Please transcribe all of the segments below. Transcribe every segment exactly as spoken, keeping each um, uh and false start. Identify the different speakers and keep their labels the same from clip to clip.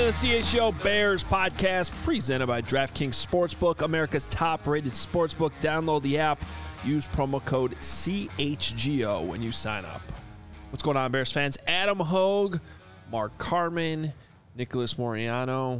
Speaker 1: the C H G O Bears podcast presented by DraftKings Sportsbook, America's top-rated sportsbook. Download the app. Use promo code C H G O when you sign up. What's going on, Bears fans? Adam Hogue, Mark Carman, Nicholas Moriano.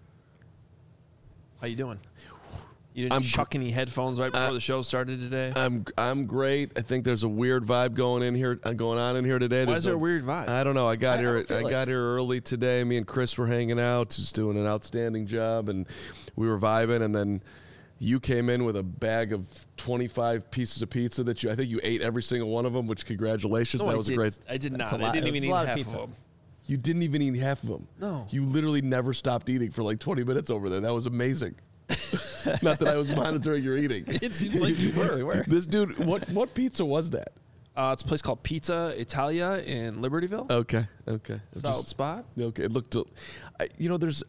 Speaker 1: How you doing? You didn't
Speaker 2: I'm
Speaker 1: chuck
Speaker 2: gr-
Speaker 1: any headphones right before
Speaker 2: uh,
Speaker 1: the show started today?
Speaker 2: I'm I'm great. I think there's a weird vibe going in here, uh, going on in here today.
Speaker 1: Why
Speaker 2: There's
Speaker 1: is there
Speaker 2: no,
Speaker 1: a weird vibe?
Speaker 2: I don't know. I got
Speaker 3: I- I
Speaker 2: here.
Speaker 3: don't feel
Speaker 2: I
Speaker 3: like-
Speaker 2: got here early today. Me and Chris were hanging out, just doing an outstanding job, and we were vibing. And then you came in with a bag of twenty-five pieces of pizza that you. I think you ate every single one of them. Which congratulations,
Speaker 1: No,
Speaker 2: that
Speaker 1: I
Speaker 2: was
Speaker 1: did,
Speaker 2: a great.
Speaker 1: I did
Speaker 3: That's
Speaker 1: not.
Speaker 3: a
Speaker 1: I
Speaker 3: lot-
Speaker 1: didn't
Speaker 3: it was
Speaker 1: even
Speaker 3: a
Speaker 1: eat
Speaker 3: lot of
Speaker 1: half
Speaker 3: pizza.
Speaker 1: of them.
Speaker 2: You didn't even eat half of them.
Speaker 1: No.
Speaker 2: You literally never stopped eating for like twenty minutes over there. That was amazing. Not that I was monitoring your eating.
Speaker 1: It seems like you were.
Speaker 3: Really were.
Speaker 2: This dude, what what pizza was that?
Speaker 1: Uh, it's a place called Pizza Italia in Libertyville.
Speaker 2: Okay, okay.
Speaker 1: Solid
Speaker 2: Just-
Speaker 1: spot.
Speaker 2: Okay, it looked. I, you know, there's.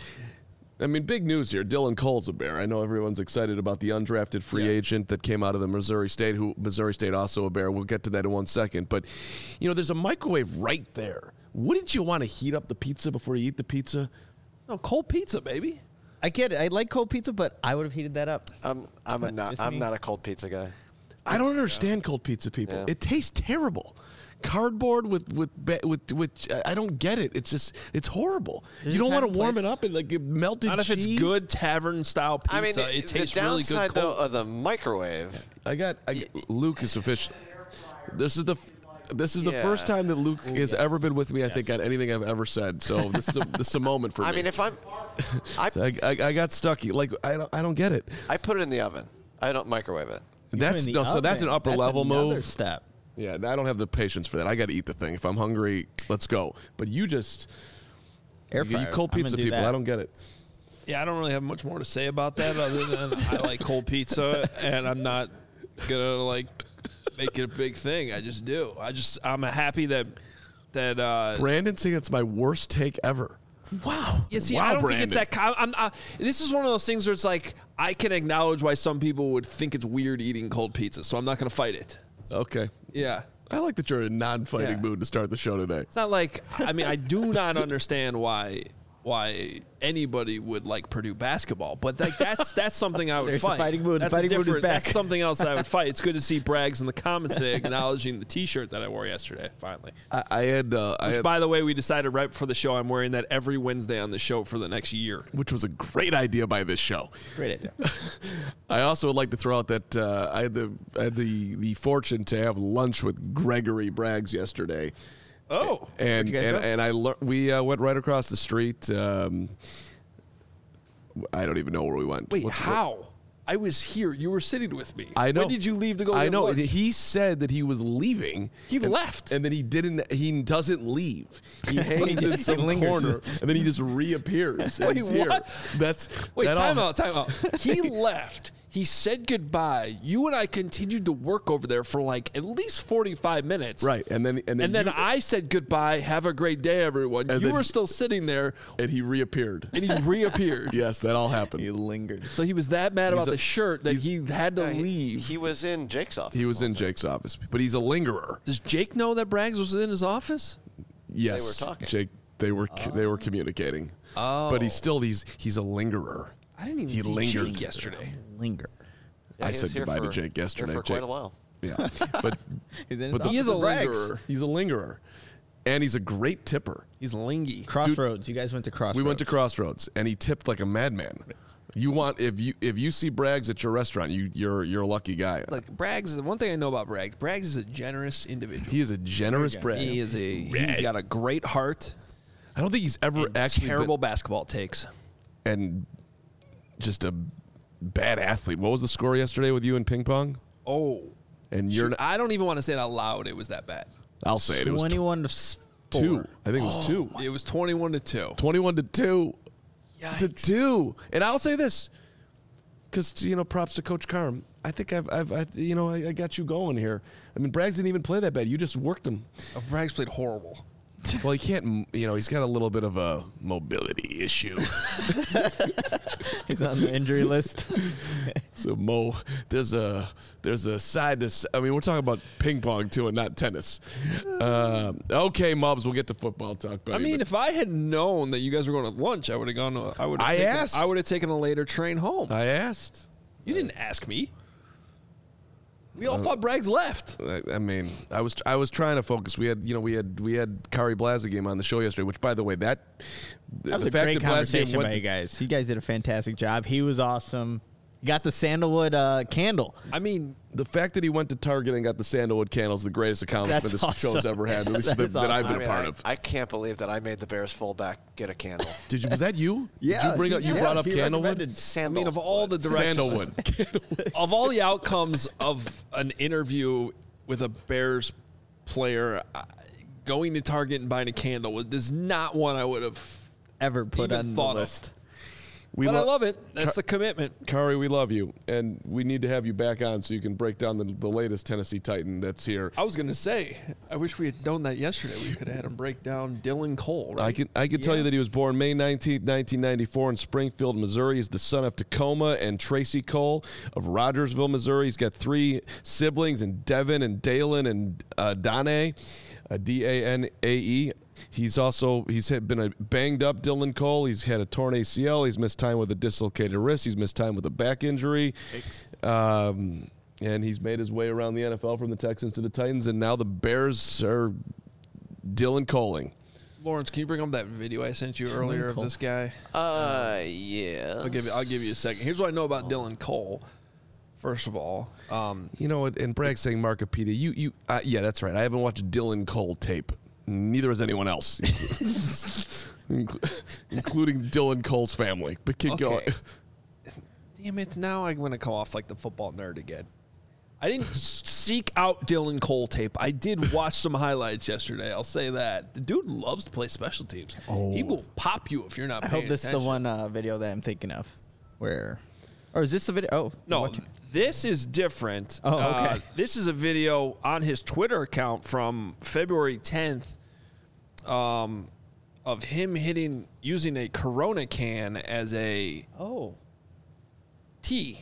Speaker 2: I mean, big news here. Dylan Cole's a Bear. I know everyone's excited about the undrafted free
Speaker 1: Yeah.
Speaker 2: agent that came out of the Missouri State. Who Missouri State also a Bear. We'll get to that in one second. But, you know, there's a microwave right there. Wouldn't you want to heat up the pizza before you eat the pizza?
Speaker 1: No, cold pizza, baby.
Speaker 3: I get it. I like cold pizza, but I would have heated that up.
Speaker 4: I'm I'm a not
Speaker 3: Just
Speaker 4: I'm
Speaker 3: me.
Speaker 4: not a cold pizza guy.
Speaker 2: I don't understand cold pizza, people.
Speaker 4: Yeah.
Speaker 2: It tastes terrible. Cardboard with with ba- with with. I don't get it. It's just it's horrible.
Speaker 3: There's
Speaker 2: you
Speaker 3: a
Speaker 2: don't want
Speaker 3: time
Speaker 2: to
Speaker 3: and
Speaker 2: warm
Speaker 3: place.
Speaker 2: it up and like melted
Speaker 1: Not if
Speaker 2: cheese.
Speaker 1: it's good tavern style pizza.
Speaker 4: I mean,
Speaker 1: it tastes
Speaker 4: the
Speaker 1: really good
Speaker 4: downside though
Speaker 1: cold.
Speaker 4: of the microwave.
Speaker 2: I got, I got Luke is official. This is the f- this is the
Speaker 4: Yeah.
Speaker 2: first time that Luke has ever been with me. I think on anything I've ever said. So this is a, this is a moment for
Speaker 4: I
Speaker 2: me.
Speaker 4: mean, if I'm, I
Speaker 2: I, I, I got stucky. Like I don't I don't get it.
Speaker 4: I put it in the oven. I don't microwave it.
Speaker 2: That's
Speaker 3: In the
Speaker 2: no. So that's an
Speaker 3: oven.
Speaker 2: upper
Speaker 3: That's
Speaker 2: level
Speaker 3: another
Speaker 2: move.
Speaker 3: step.
Speaker 2: Yeah, I don't have the patience for that. I got to eat the thing. If I'm hungry, let's go. But you just
Speaker 3: Air
Speaker 2: you,
Speaker 3: fryer.
Speaker 2: you cold
Speaker 3: I'm gonna
Speaker 2: pizza
Speaker 3: do
Speaker 2: people.
Speaker 3: that.
Speaker 2: I don't get it.
Speaker 1: Yeah, I don't really have much more to say about that other than I like cold pizza, and I'm not gonna like make it a big thing. I just do. I just I'm happy that that. Uh,
Speaker 2: Brandon saying it's my worst take ever.
Speaker 1: Wow. Yeah, see,
Speaker 2: Wow,
Speaker 1: I don't
Speaker 2: Brandon.
Speaker 1: think it's that. com- I'm, uh, this is one of those things where it's like I can acknowledge why some people would think it's weird eating cold pizza, so I'm not gonna fight it.
Speaker 2: Okay.
Speaker 1: Yeah.
Speaker 2: I like that you're in a non-fighting
Speaker 1: Yeah.
Speaker 2: mood to start the show today.
Speaker 1: It's not like I mean I do not understand why why anybody would like Purdue basketball, but like that's that's something I would
Speaker 3: There's the
Speaker 1: fight.
Speaker 3: fighting mood. The
Speaker 1: That's a
Speaker 3: fighting mood is
Speaker 1: different-
Speaker 3: back.
Speaker 1: That's something else I would fight. It's good to see Braggs in the comments today acknowledging the T-shirt that I wore yesterday. Finally,
Speaker 2: I, I had, uh, I
Speaker 1: which
Speaker 2: had
Speaker 1: by the way, we decided right before the show I'm wearing that every Wednesday on the show for the next year.
Speaker 2: which was a great idea by this show.
Speaker 3: Great idea.
Speaker 2: I also would like to throw out that uh, I had the I had the the fortune to have lunch with Gregory Braggs yesterday.
Speaker 1: Oh,
Speaker 2: and
Speaker 3: you guys
Speaker 2: and,
Speaker 3: go?
Speaker 2: and I lear- we uh, went right across the street. Um, I don't even know where we went.
Speaker 1: wait,
Speaker 2: What's-
Speaker 1: how? I was here. You were sitting with me.
Speaker 2: I know.
Speaker 1: When did you leave to go?
Speaker 2: I
Speaker 1: get
Speaker 2: know.
Speaker 1: lunch?
Speaker 2: He said that he was leaving.
Speaker 1: He
Speaker 2: and-
Speaker 1: left.
Speaker 2: and then he didn't. He doesn't leave. He hangs in some
Speaker 3: lingers.
Speaker 2: corner, and then he just reappears. and
Speaker 1: Wait,
Speaker 2: he's here.
Speaker 1: what?
Speaker 2: That's
Speaker 1: Wait,
Speaker 2: that
Speaker 1: time
Speaker 2: all-
Speaker 1: out, time out. He left. He said goodbye. You and I continued to work over there for like at least forty-five minutes.
Speaker 2: Right, and then and then,
Speaker 1: And then
Speaker 2: you-
Speaker 1: I said goodbye. Have a great day, everyone.
Speaker 2: And
Speaker 1: You
Speaker 2: then-
Speaker 1: were still sitting there,
Speaker 2: and he reappeared.
Speaker 1: and he reappeared.
Speaker 2: Yes, that all happened.
Speaker 3: He lingered.
Speaker 1: So he was that mad about
Speaker 2: a-
Speaker 1: the shirt that he had to
Speaker 4: Yeah, he-
Speaker 1: leave.
Speaker 4: He was in Jake's office.
Speaker 2: He was
Speaker 4: the
Speaker 2: in
Speaker 4: whole thing.
Speaker 2: Jake's office, but he's a lingerer.
Speaker 1: Does Jake know that Braggs was in his office?
Speaker 2: Yes,
Speaker 4: were talking.
Speaker 2: Jake. They were they were communicating.
Speaker 1: Oh.
Speaker 2: But he's still he's he's a lingerer.
Speaker 1: I didn't even
Speaker 2: He
Speaker 1: see
Speaker 2: lingered.
Speaker 1: Jake yesterday.
Speaker 3: Linger.
Speaker 4: Yeah,
Speaker 2: I
Speaker 4: he
Speaker 2: said
Speaker 4: was here
Speaker 2: goodbye to
Speaker 4: for-
Speaker 2: Jake yesterday.
Speaker 4: Here for
Speaker 2: Jake-
Speaker 4: quite a while.
Speaker 2: Yeah, but
Speaker 3: He's in his
Speaker 2: But the-
Speaker 1: He is a
Speaker 3: office at Braggs.
Speaker 1: lingerer.
Speaker 2: he's a lingerer, and he's a great tipper.
Speaker 1: He's lingy.
Speaker 3: Crossroads. You guys went to Crossroads.
Speaker 2: We went to Crossroads, and he tipped like a madman. You want if you if you see Braggs at your restaurant, you you're you're a lucky guy.
Speaker 1: Like Braggs is one thing I know about Braggs. Braggs is a generous individual.
Speaker 2: He is a generous
Speaker 3: Very
Speaker 2: Braggs.
Speaker 1: He is a. He's got a great heart.
Speaker 2: I don't think he's ever
Speaker 1: and
Speaker 2: actually
Speaker 1: terrible basketball takes.
Speaker 2: been, and just a bad athlete. What was the score yesterday with you in ping pong?
Speaker 1: Oh,
Speaker 2: And you're
Speaker 1: Shoot,
Speaker 2: not,
Speaker 1: I don't even want to say it out loud. It was that bad.
Speaker 2: I'll say it. It was tw-
Speaker 3: twenty-one to s-
Speaker 2: two.
Speaker 3: four.
Speaker 2: I think it was two.
Speaker 1: It was twenty-one to two.
Speaker 2: twenty-one to two. To two. And I'll say this, because you know, props to Coach Carm. I think I've, I've, I, you know, I, I got you going here. I mean, Braggs didn't even play that bad. You just worked him.
Speaker 1: Oh, Braggs played horrible.
Speaker 2: Well, he can't. m- You know, he's got a little bit of a mobility issue.
Speaker 3: He's on the injury list.
Speaker 2: So Mo, there's a there's a side to. s- I mean, we're talking about ping pong too, and not tennis. Uh, okay, Mubs, we'll get to football talk.
Speaker 1: I
Speaker 2: Buddy,
Speaker 1: mean,
Speaker 2: but
Speaker 1: if I had known that you guys were going to lunch, I would have gone. To, I would.
Speaker 2: I
Speaker 1: taken,
Speaker 2: asked.
Speaker 1: I would have taken a later train home.
Speaker 2: I asked.
Speaker 1: You didn't ask me. We all thought Braggs left.
Speaker 2: I, I mean, I was I was trying to focus. We had you know we had we had Kari Blazagame on the show yesterday, which by the way that
Speaker 3: That was a great conversation by you guys. You guys did a fantastic job. He was awesome. He got the sandalwood uh, candle.
Speaker 1: I mean,
Speaker 2: The fact that he went to Target and got the sandalwood candle is the greatest accomplishment
Speaker 3: That's
Speaker 2: this
Speaker 3: awesome.
Speaker 2: show's ever had, at least
Speaker 3: That
Speaker 2: that,
Speaker 3: is
Speaker 2: that I've
Speaker 3: awesome.
Speaker 2: been
Speaker 4: I
Speaker 2: a
Speaker 4: mean,
Speaker 2: part
Speaker 4: I,
Speaker 2: of.
Speaker 4: I can't believe that I made the Bears fullback get a candle.
Speaker 2: Did you? Was that you?
Speaker 3: Yeah,
Speaker 2: Did you bring up? You
Speaker 3: yeah,
Speaker 2: brought up
Speaker 3: he
Speaker 2: candlewood.
Speaker 3: recommended
Speaker 1: I
Speaker 4: Sandal.
Speaker 1: mean, of all the directions,
Speaker 2: Sandalwood.
Speaker 1: of all the outcomes of an interview with a Bears player, uh, going to Target and buying a candle was is not one I would have.
Speaker 3: Ever put
Speaker 1: Even
Speaker 3: on the
Speaker 1: thought of.
Speaker 3: list.
Speaker 2: We
Speaker 1: But I
Speaker 2: lo-
Speaker 1: love it. That's the commitment.
Speaker 2: Kari, we love you, and we need to have you back on so you can break down the, the latest Tennessee Titan that's here.
Speaker 1: I was going to say, I wish we had known that yesterday. We could have had him break down Dylan Cole. Right?
Speaker 2: I can I can tell you that he was born May nineteenth, nineteen ninety-four in Springfield, Missouri. He's the son of Tacoma and Tracy Cole of Rogersville, Missouri. He's got three siblings, and Devin and Dalen and uh, Danae, uh, D A N A E. He's also he's had been a banged up Dylan Cole. He's had a torn A C L. He's missed time with a dislocated wrist. He's missed time with a back injury. Um, and he's made his way around the N F L from the Texans to the Titans, and now the Bears are Dylan Coling.
Speaker 1: Lawrence, can you bring up that video I sent you earlier of
Speaker 3: Cole.
Speaker 1: this guy?
Speaker 4: Uh, yeah.
Speaker 1: I'll give you. I'll give you a second. Here's what I know about Dylan Cole. First of all, um,
Speaker 2: You know what? And Bragg saying Markopedia. You, you, uh, yeah, that's right. I haven't watched Dylan Cole tape. Neither has anyone else, Inclu- including Dylan Cole's family. But keep
Speaker 1: Okay.
Speaker 2: going.
Speaker 1: damn it! Now I'm gonna come off like the football nerd again. I didn't s- seek out Dylan Cole tape. I did watch some highlights yesterday. I'll say that the dude loves to play special teams. He will pop you if you're not
Speaker 3: I
Speaker 1: paying
Speaker 3: hope this
Speaker 1: attention.
Speaker 3: is the one uh, video that I'm thinking of. Where, or is this the video? Oh
Speaker 1: No,
Speaker 3: what-
Speaker 1: this is different.
Speaker 3: Oh,
Speaker 1: Uh,
Speaker 3: okay.
Speaker 1: this is a video on his Twitter account from February tenth um, of him hitting, using a Corona can as a
Speaker 3: oh.
Speaker 1: tee.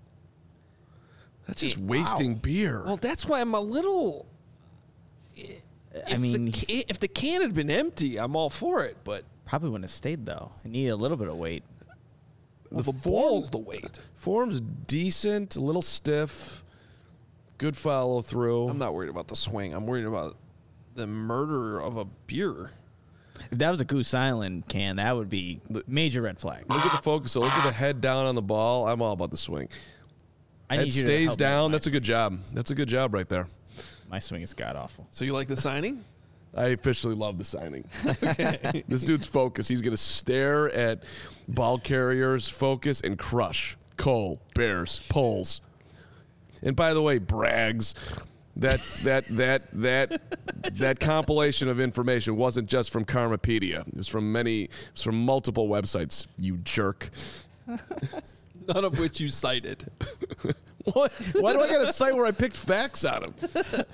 Speaker 2: That's just
Speaker 1: Wow.
Speaker 2: wasting beer.
Speaker 1: Well, that's why I'm a little.
Speaker 3: I
Speaker 1: If
Speaker 3: mean,
Speaker 1: the can, if the can had been empty, I'm all for it. But
Speaker 3: probably wouldn't have stayed though. It needed a little bit of weight.
Speaker 1: well, the,
Speaker 2: form-
Speaker 1: ball's the weight.
Speaker 2: Form's decent, a little stiff, good follow through.
Speaker 1: I'm not worried about the swing. I'm worried about the murder of a beer.
Speaker 3: If that was a Goose Island can, that would be major red flag.
Speaker 2: Look at the focus. So look at the head down on the ball. I'm all about the swing.
Speaker 3: I
Speaker 2: Head
Speaker 3: need you to
Speaker 2: stays
Speaker 3: help me
Speaker 2: down.
Speaker 3: with
Speaker 2: That's a good job. That's a good job right there.
Speaker 3: My, my swing is god awful.
Speaker 1: So you like the signing?
Speaker 2: I officially love the signing. This dude's focus. He's going to stare at ball carriers, focus, and crush. Cole, Bears, Poles. And by the way, Braggs, that that that that that compilation of information wasn't just from Karmapedia. It was from many. It was from multiple websites. You jerk.
Speaker 1: None of which you cited.
Speaker 2: What? Why do I got to cite where I picked facts out of?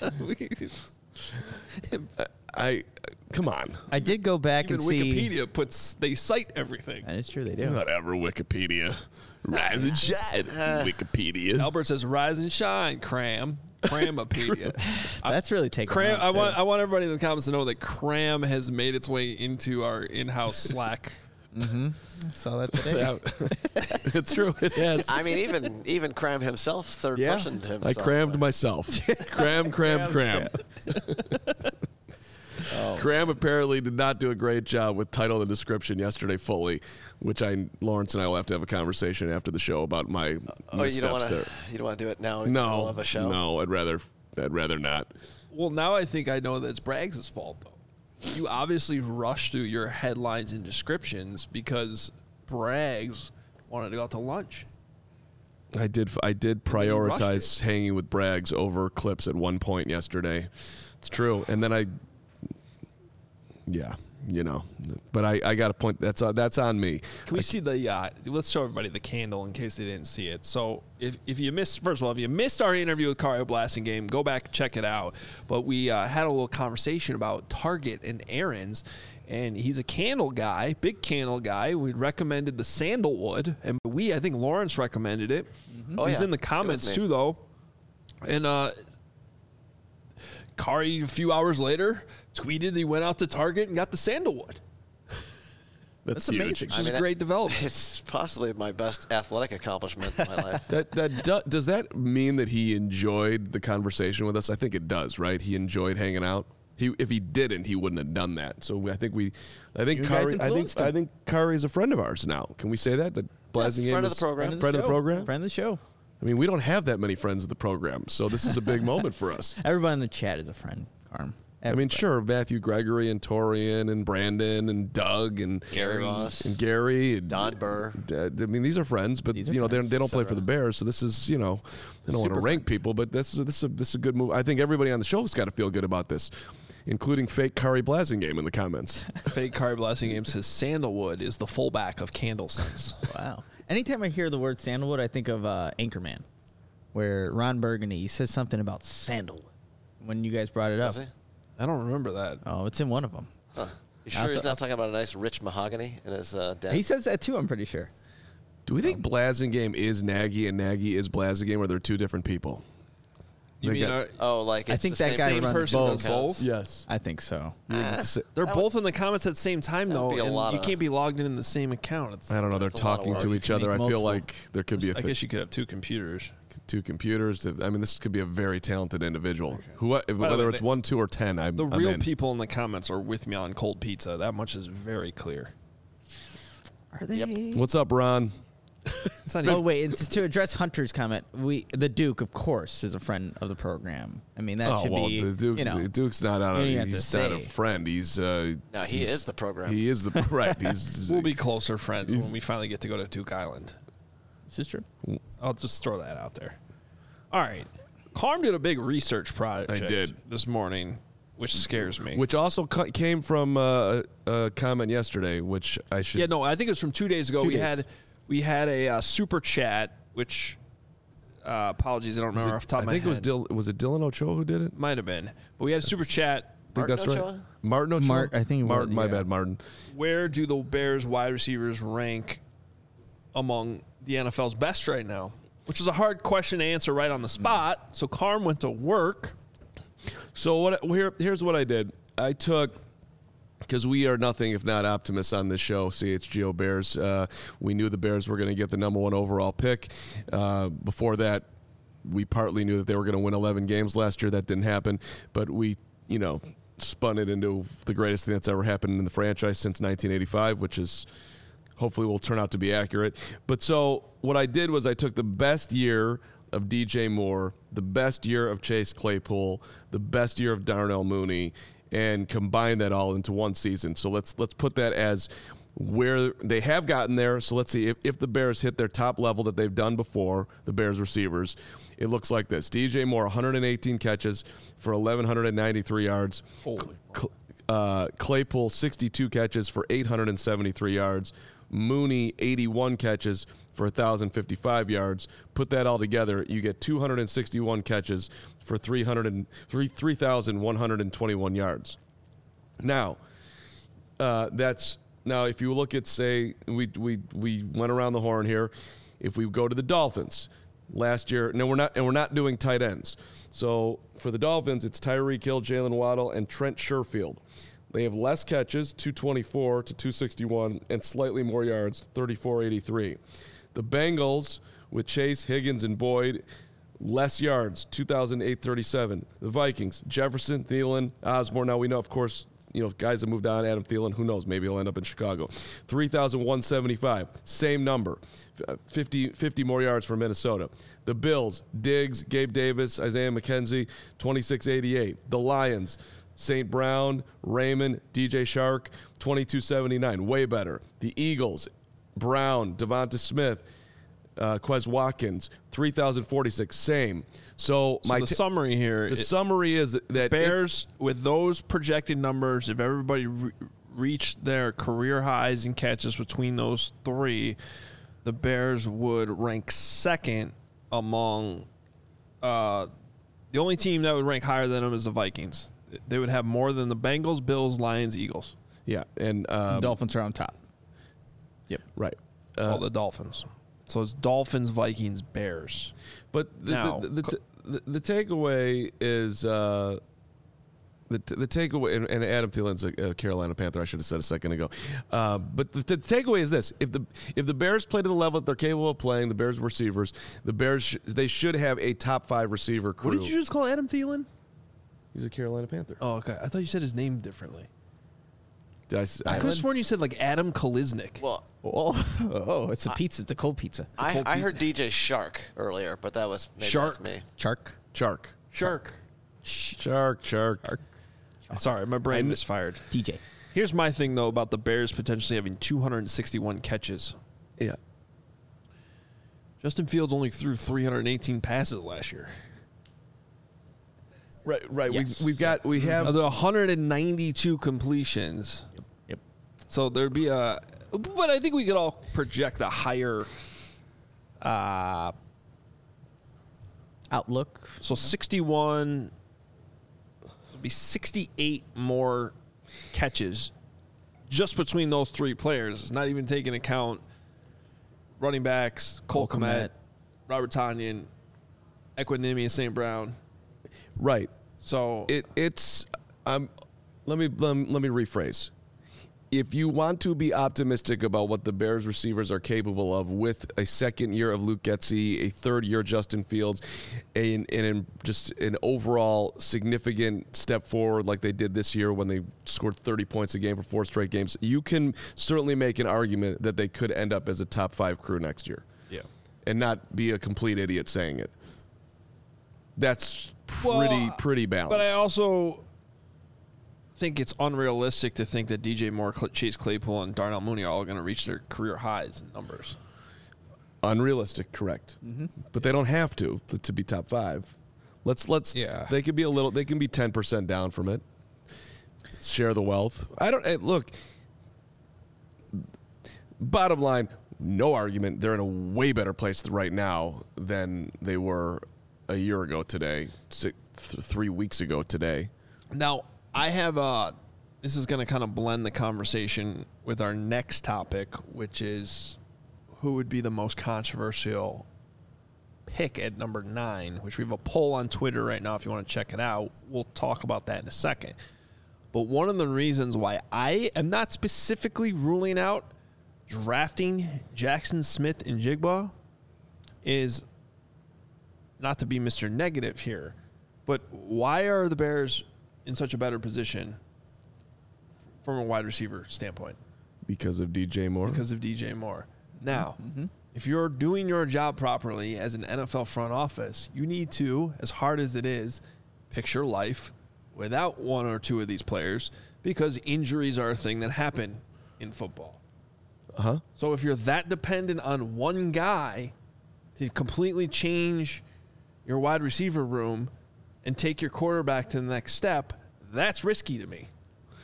Speaker 2: I come on.
Speaker 3: I did go back
Speaker 1: Even
Speaker 3: and see.
Speaker 1: Wikipedia puts they cite everything.
Speaker 3: That is true. They do.
Speaker 2: Whatever, Wikipedia. Rise and shine, Wikipedia.
Speaker 1: Albert says, "Rise and shine, cram, Cramapedia."
Speaker 3: That's really taken.
Speaker 1: Cram.
Speaker 3: off,
Speaker 1: I
Speaker 3: too.
Speaker 1: want. I want everybody in the comments to know that Cram has made its way into our in-house Slack.
Speaker 3: saw that today.
Speaker 2: It's true. It has.
Speaker 4: I mean, even even Cram himself, third
Speaker 3: Yeah.
Speaker 4: person to himself.
Speaker 2: I crammed myself. Cram, cram, cram. Cram apparently did not do a great job with title and description yesterday fully, which I Lawrence and I will have to have a conversation after the show about my
Speaker 4: Oh, you don't
Speaker 2: missteps
Speaker 4: want
Speaker 2: there.
Speaker 4: to. You don't want to do it now. In the middle
Speaker 2: No,
Speaker 4: of a show.
Speaker 2: no, I'd rather, I'd rather not.
Speaker 1: Well, now I think I know that it's Braggs' fault, though. You obviously rushed through your headlines and descriptions because Braggs wanted to go out to lunch.
Speaker 2: I did, I did
Speaker 1: You rushed
Speaker 2: prioritize hanging with Braggs over clips at one point yesterday. It's true, and then I, yeah, you know, but I, I got a point. That's uh, that's on me.
Speaker 1: Can we
Speaker 2: I,
Speaker 1: see the? Uh, let's show everybody the candle in case they didn't see it. So if if you missed, first of all, if you missed our interview with Kari Blasingame, go back and check it out. But we uh, had a little conversation about Target and errands. And he's a candle guy, big candle guy. We recommended the sandalwood, and we, I think Lawrence recommended it. Mm-hmm. Oh, He's yeah. in the comments too, though. And uh, Kari, a few hours later, tweeted that he went out to Target and got the sandalwood.
Speaker 2: That's,
Speaker 1: That's amazing. It's I mean, a great development.
Speaker 4: It's possibly my best athletic accomplishment in my life.
Speaker 2: That that do, does that mean that he enjoyed the conversation with us? I think it does, right? He enjoyed hanging out. He, if he didn't, he wouldn't have done that. So I think we, I think Kari, I think him. I think Kari is a friend of ours now. Can we say that? That Blasingame
Speaker 4: yeah, friend
Speaker 2: is
Speaker 4: of the program.
Speaker 3: Friend, of the,
Speaker 2: friend of the program.
Speaker 3: Friend of the show.
Speaker 2: I mean, we don't have that many friends of the program, so this is a big moment for us.
Speaker 3: Everybody in the chat is a friend, Carm.
Speaker 2: Everybody. I mean, sure, Matthew Gregory and Torian and Brandon and Doug and
Speaker 4: Gary Ross
Speaker 2: and Gary and
Speaker 4: Don Burr.
Speaker 2: Uh, I mean, these are friends, but
Speaker 3: are
Speaker 2: you know
Speaker 3: friends.
Speaker 2: they, they don't play
Speaker 4: so
Speaker 2: for the Bears, so this is you know I don't want to rank people, but this is this is a, this is a good move. I think everybody on the show has got to feel good about this, including fake Kari Blasingame in the comments.
Speaker 1: Fake Kari Blasingame says sandalwood is the fullback of candle scents.
Speaker 3: Wow. Anytime I hear the word sandalwood, I think of uh, Anchorman, where Ron Burgundy says something about sandalwood when you guys brought it up.
Speaker 4: Does he?
Speaker 1: I don't remember that.
Speaker 3: Oh, it's in one of them.
Speaker 4: Huh. You sure he's not talking about a nice rich mahogany in his uh, den?
Speaker 3: He says that too, I'm pretty sure.
Speaker 2: Do we think Blasingame is Nagy and Nagy is Blasingame, or they're two different people?
Speaker 1: You mean,
Speaker 4: got, oh, like it's
Speaker 3: I think
Speaker 4: the
Speaker 3: that
Speaker 4: same
Speaker 3: guy
Speaker 1: same
Speaker 3: runs
Speaker 1: person
Speaker 3: both.
Speaker 1: does both?
Speaker 2: Yes.
Speaker 3: I think so.
Speaker 4: Ah,
Speaker 1: They're
Speaker 4: That
Speaker 1: both in the comments at the same time,
Speaker 4: that would
Speaker 1: though,
Speaker 4: be a
Speaker 1: and
Speaker 4: lot
Speaker 1: you
Speaker 4: of-
Speaker 1: can't be logged in in the same account. It's,
Speaker 2: I don't know. They're
Speaker 4: That's a lot of
Speaker 2: talking
Speaker 4: work.
Speaker 2: to
Speaker 1: You
Speaker 2: each
Speaker 1: can
Speaker 2: other. I
Speaker 1: make
Speaker 2: feel
Speaker 1: multiple.
Speaker 2: like there could be a
Speaker 1: I
Speaker 2: th-
Speaker 1: guess you could have two computers.
Speaker 2: two computers. To, I mean, this could be a very talented individual. Who, if,
Speaker 1: the
Speaker 2: whether
Speaker 1: way,
Speaker 2: it's
Speaker 1: they-
Speaker 2: one, two, or ten, I'm,
Speaker 1: The
Speaker 2: I'm
Speaker 1: real
Speaker 2: in.
Speaker 1: people in the comments are with me on cold pizza. That much is very clear.
Speaker 3: Are they?
Speaker 2: What's up, Ron?
Speaker 1: It's not
Speaker 3: Oh
Speaker 1: even,
Speaker 3: wait, it's to address Hunter's comment. We the Duke, of course, is a friend of the program. I mean, that
Speaker 2: Oh
Speaker 3: should
Speaker 2: well,
Speaker 3: be
Speaker 2: the Duke's,
Speaker 3: you know.
Speaker 2: the Duke's not on.
Speaker 3: you
Speaker 2: A,
Speaker 3: don't have to
Speaker 2: he's not a
Speaker 3: say.
Speaker 2: friend. He's uh,
Speaker 4: No, he
Speaker 2: he's-
Speaker 4: is the program.
Speaker 2: He is the right. He's
Speaker 1: we'll be closer friends when we finally get to go to Duke Island.
Speaker 3: This is true.
Speaker 1: I'll just throw that out there. All right. Carm did a big research project
Speaker 2: I did.
Speaker 1: this morning, which scares me.
Speaker 2: which also cu- came from uh, a comment yesterday, which I should.
Speaker 1: Yeah, no, I think it was from two days ago.
Speaker 3: Two
Speaker 1: we
Speaker 3: days.
Speaker 1: had we had a uh, super chat, which uh, apologies, I don't
Speaker 2: was
Speaker 1: remember
Speaker 2: it-
Speaker 1: off the top
Speaker 2: I
Speaker 1: of my
Speaker 2: think
Speaker 1: head.
Speaker 2: it was Dil- was it Dylan Ochoa who did it?
Speaker 1: Might have been, but we had a super chat.
Speaker 2: I think
Speaker 4: Martin
Speaker 2: that's right.
Speaker 4: Ochoa?
Speaker 2: Martin Ochoa.
Speaker 3: Mart- I think it was,
Speaker 2: Martin. My
Speaker 3: yeah.
Speaker 2: bad, Martin.
Speaker 1: Where do the Bears wide receivers rank among the N F L's best right now? Which is a hard question to answer right on the spot. So Carm went to work.
Speaker 2: So what? Here, here's what I did. I took. Because we are nothing if not optimists on this show, C H G O Bears. Uh, we knew the Bears were going to get the number one overall pick. Uh, before that, we partly knew that they were going to win eleven games last year. That didn't happen. But we, you know, spun it into the greatest thing that's ever happened in the franchise since nineteen eighty-five, which is hopefully will turn out to be accurate. But so what I did was I took the best year of D J Moore, the best year of Chase Claypool, the best year of Darnell Mooney, and combine that all into one season. So let's let's put that as where they have gotten there. So let's see if, if the Bears hit their top level that they've done before, the Bears receivers, it looks like this. D J Moore, one hundred eighteen catches for eleven ninety-three yards.
Speaker 1: Holy
Speaker 2: Cl- uh, Claypool, sixty-two catches for eight hundred seventy-three yards. Mooney, eighty-one catches for one thousand fifty-five yards. Put that all together, you get two hundred sixty-one catches for three thousand one hundred twenty-one yards. Now, uh, that's now if you look at, say, we we we went around the horn here. If we go to the Dolphins, last year, no, we're not, and we're not doing tight ends. So for the Dolphins, it's Tyreek Hill, Jalen Waddle, and Trent Sherfield. They have less catches, two twenty-four to two sixty-one, and slightly more yards, thirty-four eighty-three. The Bengals, with Chase, Higgins, and Boyd, less yards, two thousand eight thirty-seven. The Vikings, Jefferson, Thielen, Osborne. Now we know, of course, you know, guys that moved on, Adam Thielen, who knows, maybe he'll end up in Chicago. three thousand one hundred seventy-five, same number, fifty, fifty more yards for Minnesota. The Bills, Diggs, Gabe Davis, Isaiah McKenzie, twenty-six eighty-eight. The Lions, Saint Brown, Raymond, D J Shark, twenty-two seventy-nine, way better. The Eagles, Brown, Devonta Smith, uh, Quez Watkins, three thousand forty-six, same. So,
Speaker 1: So
Speaker 2: my
Speaker 1: the
Speaker 2: t-
Speaker 1: summary here
Speaker 2: the
Speaker 1: is
Speaker 2: summary is that
Speaker 1: Bears with those projected numbers, if everybody re- reached their career highs in catches between those three, the Bears would rank second among uh, the only team that would rank higher than them is the Vikings. They would have more than the Bengals, Bills, Lions, Eagles.
Speaker 2: Yeah, and um,
Speaker 3: Dolphins are on top. Yep.
Speaker 2: right.
Speaker 1: All
Speaker 2: Uh,
Speaker 1: the Dolphins. So it's Dolphins, Vikings, Bears.
Speaker 2: but the
Speaker 1: Now,
Speaker 2: the, the, the, the, the takeaway is uh, the t- the takeaway, and, and Adam Thielen's a, a Carolina Panther. I should have said a second ago. Uh, but the, the takeaway is this: if the if the Bears play to the level that they're capable of playing, the Bears receivers, the Bears sh- they should have a top five receiver crew.
Speaker 1: What did you just call Adam Thielen?
Speaker 2: He's a Carolina Panther.
Speaker 1: Oh, okay. I thought you said his name differently.
Speaker 2: Did I, s-
Speaker 1: I
Speaker 2: I-
Speaker 1: could have sworn you said like Adam Kaliznik.
Speaker 4: Well,
Speaker 3: Oh, oh, it's a pizza. It's a cold pizza.
Speaker 4: I,
Speaker 1: cold
Speaker 4: I
Speaker 1: pizza.
Speaker 4: heard D J Shark earlier, but that was maybe
Speaker 1: Shark?
Speaker 4: that's me.
Speaker 3: Chark.
Speaker 2: Shark,
Speaker 1: Shark.
Speaker 2: Shark, Shark.
Speaker 1: Sorry, my brain misfired.
Speaker 3: D J.
Speaker 1: Here's my thing, though, about the Bears potentially having two hundred sixty-one catches.
Speaker 2: Yeah.
Speaker 1: Justin Fields only threw three hundred eighteen passes last year.
Speaker 2: Right, right.
Speaker 3: Yes.
Speaker 2: We've, we've got we have
Speaker 1: Of the one hundred ninety-two completions.
Speaker 3: Yep.
Speaker 1: So there'd be a, but I think we could all project a higher. Uh,
Speaker 3: Outlook.
Speaker 1: so sixty-one. It'd be sixty-eight more catches just between those three players. Not even taking account running backs, Cole,
Speaker 3: Cole
Speaker 1: Kmet,
Speaker 3: Kmet.
Speaker 1: Robert Tonyan, Equinemius Saint Brown.
Speaker 2: right.
Speaker 1: So
Speaker 2: It it's um let me let, me- let me rephrase. If you want to be optimistic about what the Bears receivers are capable of with a second year of Luke Getsy, a third year Justin Fields, and, and just an overall significant step forward like they did this year when they scored thirty points a game for four straight games, you can certainly make an argument that they could end up as a top five crew next year
Speaker 1: yeah.
Speaker 2: and not be a complete idiot saying it. That's pretty
Speaker 1: Well,
Speaker 2: pretty balanced.
Speaker 1: But I also think it's unrealistic to think that D J Moore, Cl- Chase Claypool, and Darnell Mooney are all going to reach their career highs in numbers.
Speaker 2: Unrealistic, correct.
Speaker 1: Mm-hmm.
Speaker 2: But they don't have to to, to be top five. Let's let's.
Speaker 1: Yeah.
Speaker 2: They could be a little. They can be ten percent down from it. Share the wealth. I don't hey, look. Bottom line, no argument. They're in a way better place right now than they were a year ago today, six, th- three weeks ago today.
Speaker 1: Now, I have a. This is going to kind of blend the conversation with our next topic, which is who would be the most controversial pick at number nine, which we have a poll on Twitter right now if you want to check it out. We'll talk about that in a second. But one of the reasons why I am not specifically ruling out drafting Jackson Smith and Jigba is not to be Mister Negative here, but why are the Bears in such a better position from a wide receiver standpoint?
Speaker 2: Because of D J Moore.
Speaker 1: Because of D J Moore. Now, mm-hmm. if you're doing your job properly as an N F L front office, you need to, as hard as it is, picture life without one or two of these players because injuries are a thing that happen in football.
Speaker 2: Uh-huh.
Speaker 1: So if you're that dependent on one guy to completely change your wide receiver room and take your quarterback to the next step, that's risky to me.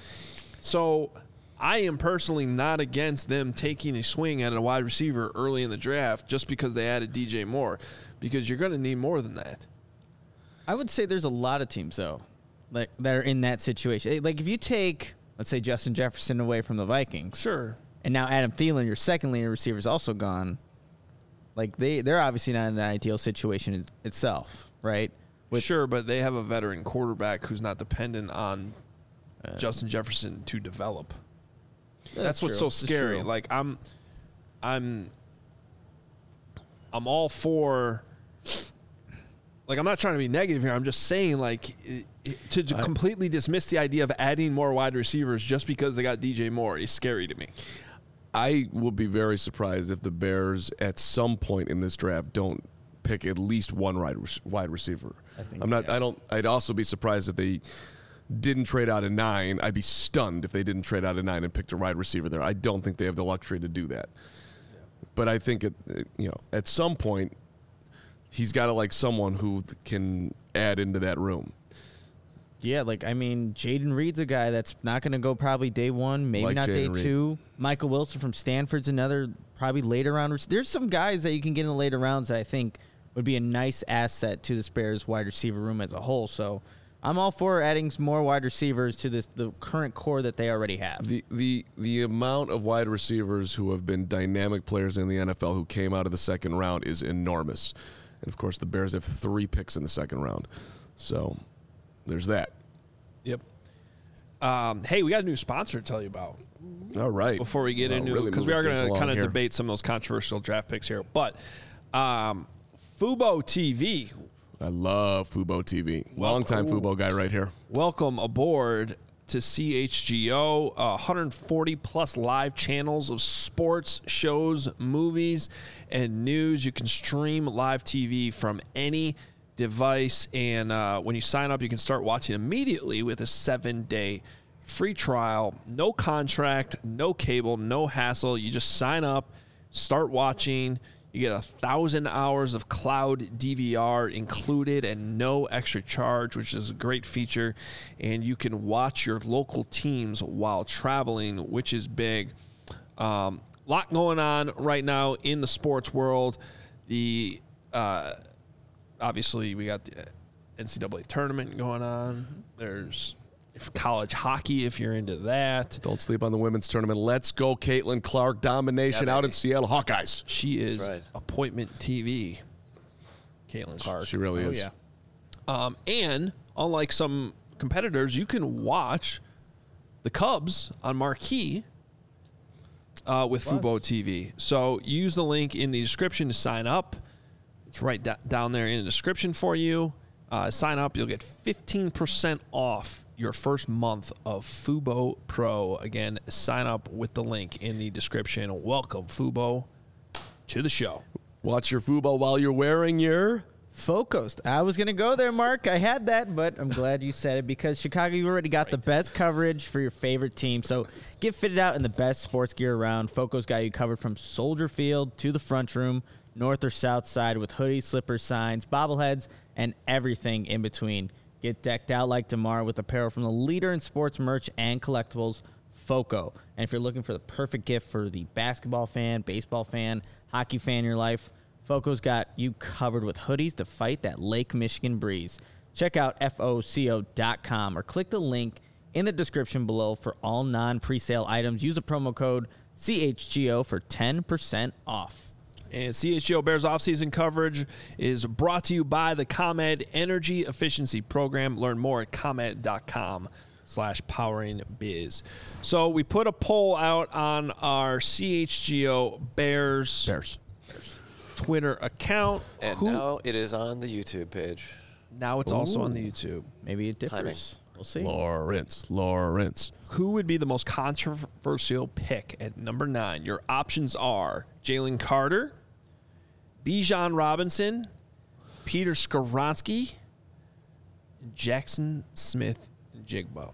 Speaker 1: So I am personally not against them taking a swing at a wide receiver early in the draft just because they added D J Moore, because you're going to need more than that.
Speaker 3: I would say there's a lot of teams, though, like that are in that situation. Like if you take, let's say, Justin Jefferson away from the Vikings.
Speaker 1: Sure.
Speaker 3: And now Adam Thielen, your second leading receiver, is also gone. Like they, they're obviously not in an ideal situation in itself, right? With,
Speaker 1: sure, but they have a veteran quarterback who's not dependent on
Speaker 3: uh,
Speaker 1: Justin Jefferson to develop. That's,
Speaker 3: That's
Speaker 1: what's
Speaker 3: true.
Speaker 1: so
Speaker 3: That's
Speaker 1: scary.
Speaker 3: true.
Speaker 1: Like I'm, I'm, I'm all for. Like I'm not trying to be negative here. I'm just saying, like, it, it, to, to
Speaker 2: I,
Speaker 1: completely dismiss the idea of adding more wide receivers just because they got D J Moore is scary to me.
Speaker 2: I will be very surprised if the Bears at some point in this draft don't pick at least one wide wide receiver.
Speaker 3: I think,
Speaker 2: I'm not.
Speaker 3: yeah.
Speaker 2: I don't. I'd also be surprised if they didn't trade out of nine. I'd be stunned if they didn't trade out of nine and picked a wide receiver there. I don't think they have the luxury to do that. Yeah. But I think it, you know, at some point, he's got to like someone who can add into that room.
Speaker 3: Yeah, like, I mean, Jaden Reed's a guy that's not going to go probably day one, maybe
Speaker 2: Like
Speaker 3: not day
Speaker 2: Jaden Reed.
Speaker 3: two. Michael Wilson from Stanford's another probably later round. There's some guys that you can get in the later rounds that I think would be a nice asset to the Bears wide receiver room as a whole. So I'm all for adding some more wide receivers to this the current core that they already have.
Speaker 2: The the the amount of wide receivers who have been dynamic players in the N F L who came out of the second round is enormous. And, of course, the Bears have three picks in the second round. So there's that.
Speaker 1: Yep. Um, hey, we got a new sponsor to tell you about
Speaker 2: All right.
Speaker 1: before we get
Speaker 2: Well,
Speaker 1: into
Speaker 2: really
Speaker 1: it, because we are
Speaker 2: moving
Speaker 1: going
Speaker 2: things
Speaker 1: to kind
Speaker 2: along
Speaker 1: of
Speaker 2: here.
Speaker 1: debate some of those controversial draft picks here. But um, Fubo T V,
Speaker 2: I love Fubo T V. Long-time Fubo guy right here.
Speaker 1: welcome aboard to C H G O. Uh, one hundred forty plus live channels of sports, shows, movies, and news. You can stream live T V from any device, and uh, when you sign up, you can start watching immediately with a seven-day free trial. No contract, no cable, no hassle. You just sign up, start watching. You get a thousand hours of cloud D V R included and no extra charge, which is a great feature. And you can watch your local teams while traveling, which is big. Um, lot going on right now in the sports world. The uh, obviously we got the N C double A tournament going on. There's college hockey if you're into that.
Speaker 2: Don't sleep on the women's tournament. Let's go, Caitlin Clark. Domination
Speaker 4: Yeah,
Speaker 2: out
Speaker 4: baby.
Speaker 2: in Seattle. Hawkeyes.
Speaker 1: She is
Speaker 4: right.
Speaker 1: appointment T V. Caitlin Clark.
Speaker 2: She really
Speaker 3: Oh,
Speaker 2: is.
Speaker 3: yeah.
Speaker 1: Um, and unlike some competitors, you can watch the Cubs on Marquee uh, with Fubo T V. So use the link in the description to sign up. It's right da- down there in the description for you. Uh, sign up. You'll get fifteen percent off your first month of Fubo Pro. Again, sign up with the link in the description. Welcome, Fubo, to the show.
Speaker 2: Watch your Fubo while you're wearing your...
Speaker 3: Focused. I was going to go there, Mark. I had that, but I'm glad you said it because Chicago, you already got the best coverage for your favorite team. So get fitted out in the best sports gear around. Foco's got you covered from Soldier Field to the front room, north or south side with hoodies, slippers, signs, bobbleheads, and everything in between. Get decked out like DeMar with apparel from the leader in sports merch and collectibles, Foco. And if you're looking for the perfect gift for the basketball fan, baseball fan, hockey fan in your life, Foco's got you covered with hoodies to fight that Lake Michigan breeze. Check out F O C O dot com or click the link in the description below for all non-presale items. Use a promo code C H G O for ten percent off.
Speaker 1: And C H G O Bears offseason coverage is brought to you by the ComEd Energy Efficiency Program. Learn more at ComEd dot com slash powering biz. So we put a poll out on our C H G O Bears,
Speaker 2: Bears.
Speaker 1: Twitter account.
Speaker 4: And
Speaker 1: Who-
Speaker 4: now it is on the YouTube page.
Speaker 1: now it's also on the YouTube.
Speaker 3: Maybe it differs.
Speaker 4: Timing.
Speaker 3: We'll see.
Speaker 2: Lawrence. Lawrence.
Speaker 1: Who would be the most controversial pick at number nine? Your options are Jalen Carter, Bijan Robinson, Peter Skoronski, Jackson Smith Jigba.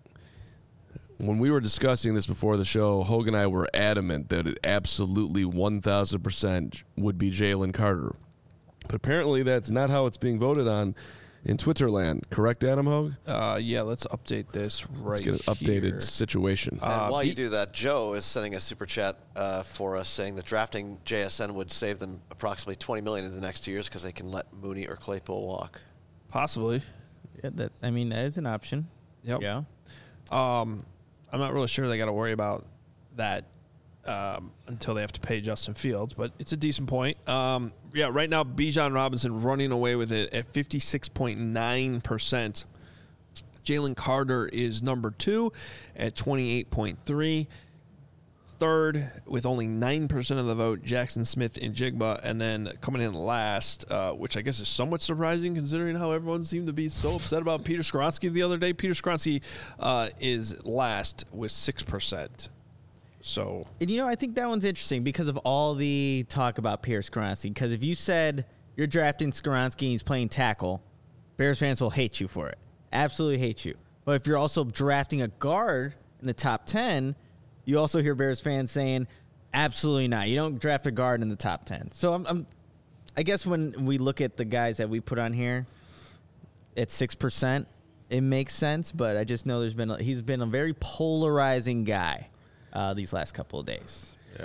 Speaker 2: When we were discussing this before the show, Hogan and I were adamant that it absolutely one thousand percent would be Jalen Carter. But apparently that's not how it's being voted on in Twitter land. Correct, Adam Hogue?
Speaker 1: Uh, yeah, let's update this right
Speaker 2: Let's get an updated
Speaker 1: here.
Speaker 2: situation.
Speaker 4: And
Speaker 1: Uh,
Speaker 4: while
Speaker 1: be-
Speaker 4: you do that, Joe is sending a super chat uh, for us saying that drafting J S N would save them approximately twenty million dollars in the next two years because they can let Mooney or Claypool walk.
Speaker 1: Possibly.
Speaker 3: Yeah, that, I mean, that is an option.
Speaker 1: Yep.
Speaker 3: Yeah.
Speaker 1: Um, I'm not really sure they got to worry about that um, until they have to pay Justin Fields, but it's a decent point. Um, yeah, right now, Bijan Robinson running away with it at fifty-six point nine percent. Jalen Carter is number two at twenty-eight point three. Third, with only nine percent of the vote, Jackson Smith and Jigba. And then coming in last, uh, which I guess is somewhat surprising considering how everyone seemed to be so upset about Peter Skoronski the other day. Peter Skoronski uh, is last with six percent. So,
Speaker 3: And, you know, I think that one's interesting because of all the talk about Pierce Skoronski. Because if you said you're drafting Skoronski and he's playing tackle, Bears fans will hate you for it. Absolutely hate you. But if you're also drafting a guard in the top ten, you also hear Bears fans saying, absolutely not. You don't draft a guard in the top ten. So I'm, I'm I guess when we look at the guys that we put on here at six percent, it makes sense, but I just know there's been a, he's been a very polarizing guy uh, these last couple of days.
Speaker 1: Yeah.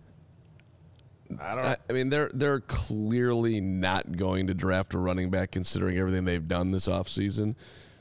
Speaker 1: I don't.
Speaker 2: I, I mean, they're they're clearly not going to draft a running back considering everything they've done this offseason.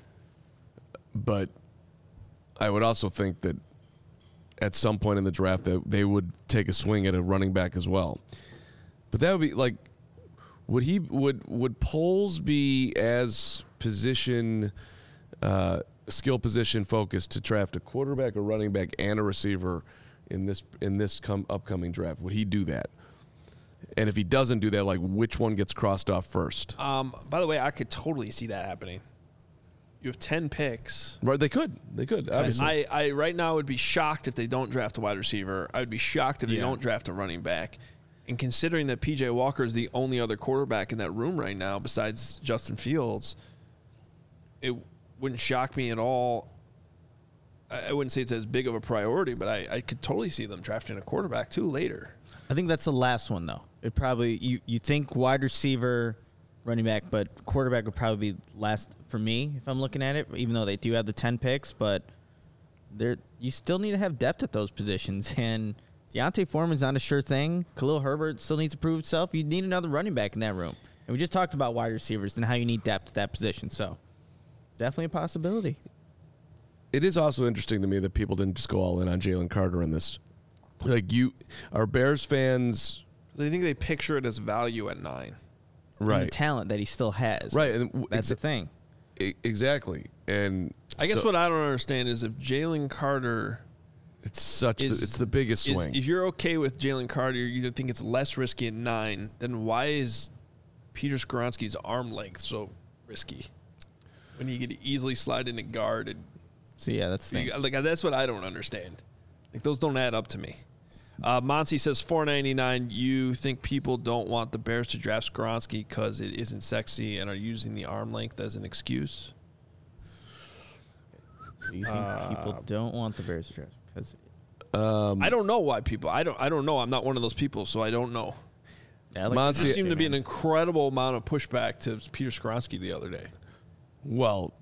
Speaker 2: But I would also think that at some point in the draft that they would take a swing at a running back as well. But that would be like, would he would would Poles be as position, uh, skill position focused to draft a quarterback, a running back, and a receiver in this in this come upcoming draft? Would he do that? And if he doesn't do that, like which one gets crossed off first?
Speaker 1: Um. By the way, I could totally see that happening. You have ten picks.
Speaker 2: Right, they could. They could. Obviously.
Speaker 1: I, I right now would be shocked if they don't draft a wide receiver. I would be shocked if they
Speaker 3: Yeah.
Speaker 1: don't draft a running back. And considering that P J Walker is the only other quarterback in that room right now besides Justin Fields, it wouldn't shock me at all. I, I wouldn't say it's as big of a priority, but I, I could totally see them drafting a quarterback too later.
Speaker 3: I think that's the last one, though. It probably you, you think wide receiver, running back, but quarterback would probably be last for me if I'm looking at it, even though they do have the ten picks, but there you still need to have depth at those positions. And Deontay Foreman's not a sure thing. Khalil Herbert still needs to prove himself. You need another running back in that room. And we just talked about wide receivers and how you need depth at that position. So definitely a possibility.
Speaker 2: It is also interesting to me that people didn't just go all in on Jalen Carter in this. Like you, are Bears fans?
Speaker 1: I think they picture it as value at nine.
Speaker 3: And the
Speaker 2: Right,
Speaker 3: talent that he still has.
Speaker 2: right, and w-
Speaker 3: That's the
Speaker 2: exa-
Speaker 3: thing.
Speaker 2: e- exactly. And
Speaker 1: I guess
Speaker 2: so
Speaker 1: what I don't understand is if Jalen Carter
Speaker 2: it's such
Speaker 1: is
Speaker 2: the, it's the biggest
Speaker 1: is-
Speaker 2: swing.
Speaker 1: if you're okay with Jalen Carter, you think it's less risky at nine, then why is Peter Skoronski's arm length so risky when he could easily slide into guard? And
Speaker 3: So, yeah, that's the thing.
Speaker 1: like that's what I don't understand. Like those don't add up to me. Uh, Monty says four ninety-nine. You think people don't want the Bears to draft Skoronski because it isn't sexy and are using the arm length as an excuse?
Speaker 3: So you think
Speaker 1: Uh,
Speaker 3: people don't want the Bears to draft because
Speaker 2: Um,
Speaker 1: I don't know why people. I don't. I don't know. I'm not one of those people, so I don't know.
Speaker 3: yeah, I like
Speaker 2: Monty-
Speaker 1: There
Speaker 2: See,
Speaker 1: seemed to be an
Speaker 3: man.
Speaker 1: incredible amount of pushback to Peter Skoronski the other day.
Speaker 2: well,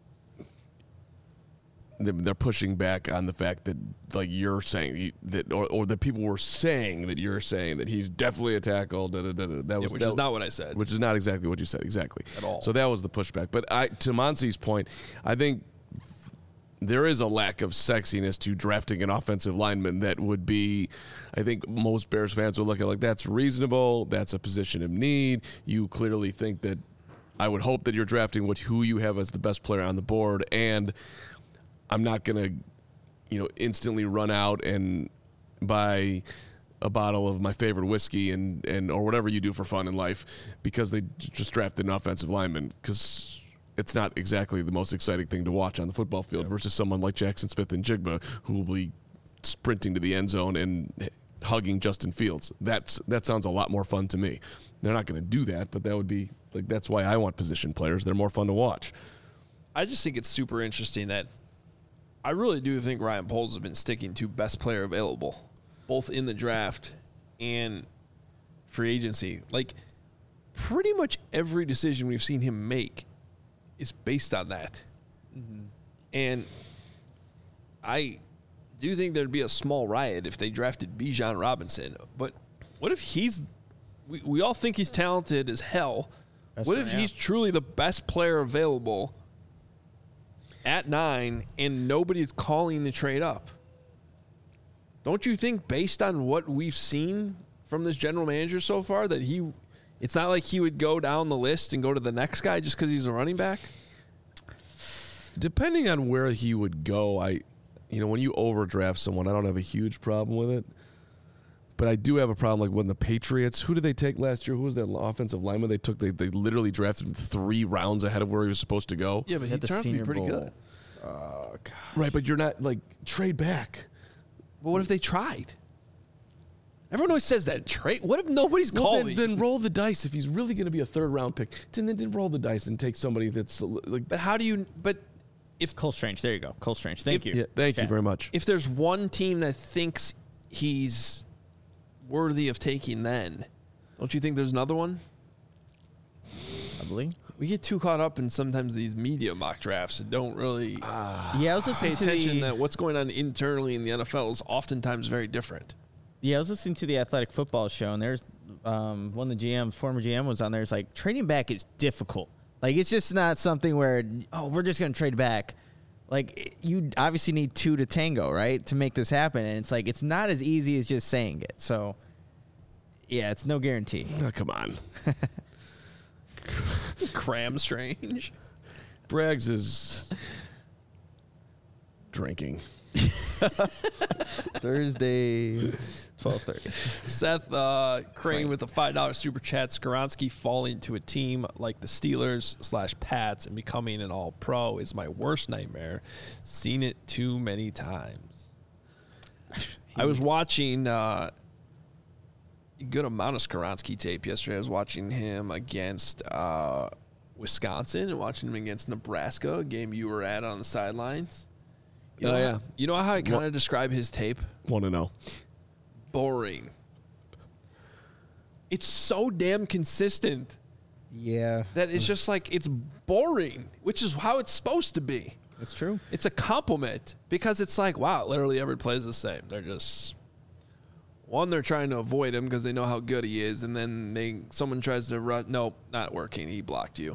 Speaker 2: they- they're pushing back on the fact that, like you're saying he- that, or, or that people were saying that you're saying that he's definitely a tackle. Da, da, da, da. That
Speaker 1: Yeah,
Speaker 2: was
Speaker 1: which
Speaker 2: that,
Speaker 1: is not what I said.
Speaker 2: which is not exactly what you said exactly
Speaker 1: At all.
Speaker 2: So that was the pushback. But I, to Monsi's point, I think there is a lack of sexiness to drafting an offensive lineman that would be, I think most Bears fans would look at like that's reasonable. That's a position of need. You clearly think that. I would hope that you're drafting what who you have as the best player on the board, and I'm not gonna, you know, instantly run out and buy a bottle of my favorite whiskey and, and or whatever you do for fun in life because they just drafted an offensive lineman, because it's not exactly the most exciting thing to watch on the football field versus someone like Jackson Smith and Jigba who will be sprinting to the end zone and hugging Justin Fields. That's that sounds a lot more fun to me. They're not going to do that, but that would be like that's why I want position players. They're more fun to watch.
Speaker 1: I just think it's super interesting that I really do think Ryan Poles has been sticking to best player available, both in the draft and free agency. Like, pretty much every decision we've seen him make is based on that. Mm-hmm. And I do think there'd be a small riot if they drafted Bijan Robinson. But what if he's we, – we all think he's talented as hell.
Speaker 3: That's
Speaker 1: what
Speaker 3: right,
Speaker 1: if
Speaker 3: yeah.
Speaker 1: he's truly the best player available at nine and nobody's calling the trade up? Don't you think, based on what we've seen from this general manager so far, that he – it's not like he would go down the list and go to the next guy just because he's a running back?
Speaker 2: Depending on where he would go, I, you know, when you overdraft someone, I don't have a huge problem with it. But I do have a problem, like when the Patriots, who did they take last year? Who was that offensive lineman they took? They they literally drafted him three rounds ahead of where he was supposed to go.
Speaker 1: Yeah, but he
Speaker 3: At the
Speaker 1: turned out to be
Speaker 3: Senior
Speaker 1: pretty
Speaker 3: Bowl.
Speaker 1: good.
Speaker 3: Oh, God.
Speaker 2: Right, but you're not, like, trade back.
Speaker 1: But what if they tried? Everyone always says that. Trade. What if nobody's
Speaker 2: Well,
Speaker 1: calling?
Speaker 2: then, then roll the dice. If he's really going to be a third round pick, then, then, then roll the dice and take somebody that's like.
Speaker 1: But how do you? But if
Speaker 3: Cole Strange. There you go. Cole Strange. Thank
Speaker 1: If-
Speaker 3: you.
Speaker 2: Yeah, thank you
Speaker 3: Okay.
Speaker 2: very much.
Speaker 1: if there's one team that thinks he's worthy of taking, then don't you think there's another one?
Speaker 3: Probably.
Speaker 1: We get too caught up in sometimes these media mock drafts and don't really uh,
Speaker 3: Yeah, I was
Speaker 1: pay
Speaker 3: listening to
Speaker 1: attention
Speaker 3: the,
Speaker 1: that what's going on internally in the N F L is oftentimes very different.
Speaker 3: Yeah, I was listening to the Athletic Football Show, and there's um, one of the G Ms, former G M, was on there. It's like trading back is difficult. Like it's just not something where oh we're just gonna trade back. Like you obviously need two to tango, right, to make this happen, and it's like it's not as easy as just saying it. So yeah, it's no guarantee.
Speaker 2: Oh, come on.
Speaker 1: Cram strange.
Speaker 2: Braggs is drinking.
Speaker 3: Thursday, twelve thirty.
Speaker 1: Seth uh, Crane with a five dollar super chat. Skoronski falling to a team like the Steelers slash Pats and becoming an all-pro is my worst nightmare. Seen it too many times. I was watching uh, a good amount of Skoronski tape yesterday. I was watching him against uh, Wisconsin and watching him against Nebraska, a game you were at on the sidelines. You know,
Speaker 2: Oh, yeah.
Speaker 1: You know how I kind of describe his tape?
Speaker 2: Want to know?
Speaker 1: Boring. It's so damn consistent
Speaker 3: Yeah,
Speaker 1: that it's just like it's boring, which is how it's supposed to be.
Speaker 3: that's true.
Speaker 1: It's a compliment because it's like, wow, literally every play is the same. They're just one, they're trying to avoid him because they know how good he is, and then they someone tries to run. Nope, not working. He blocked you.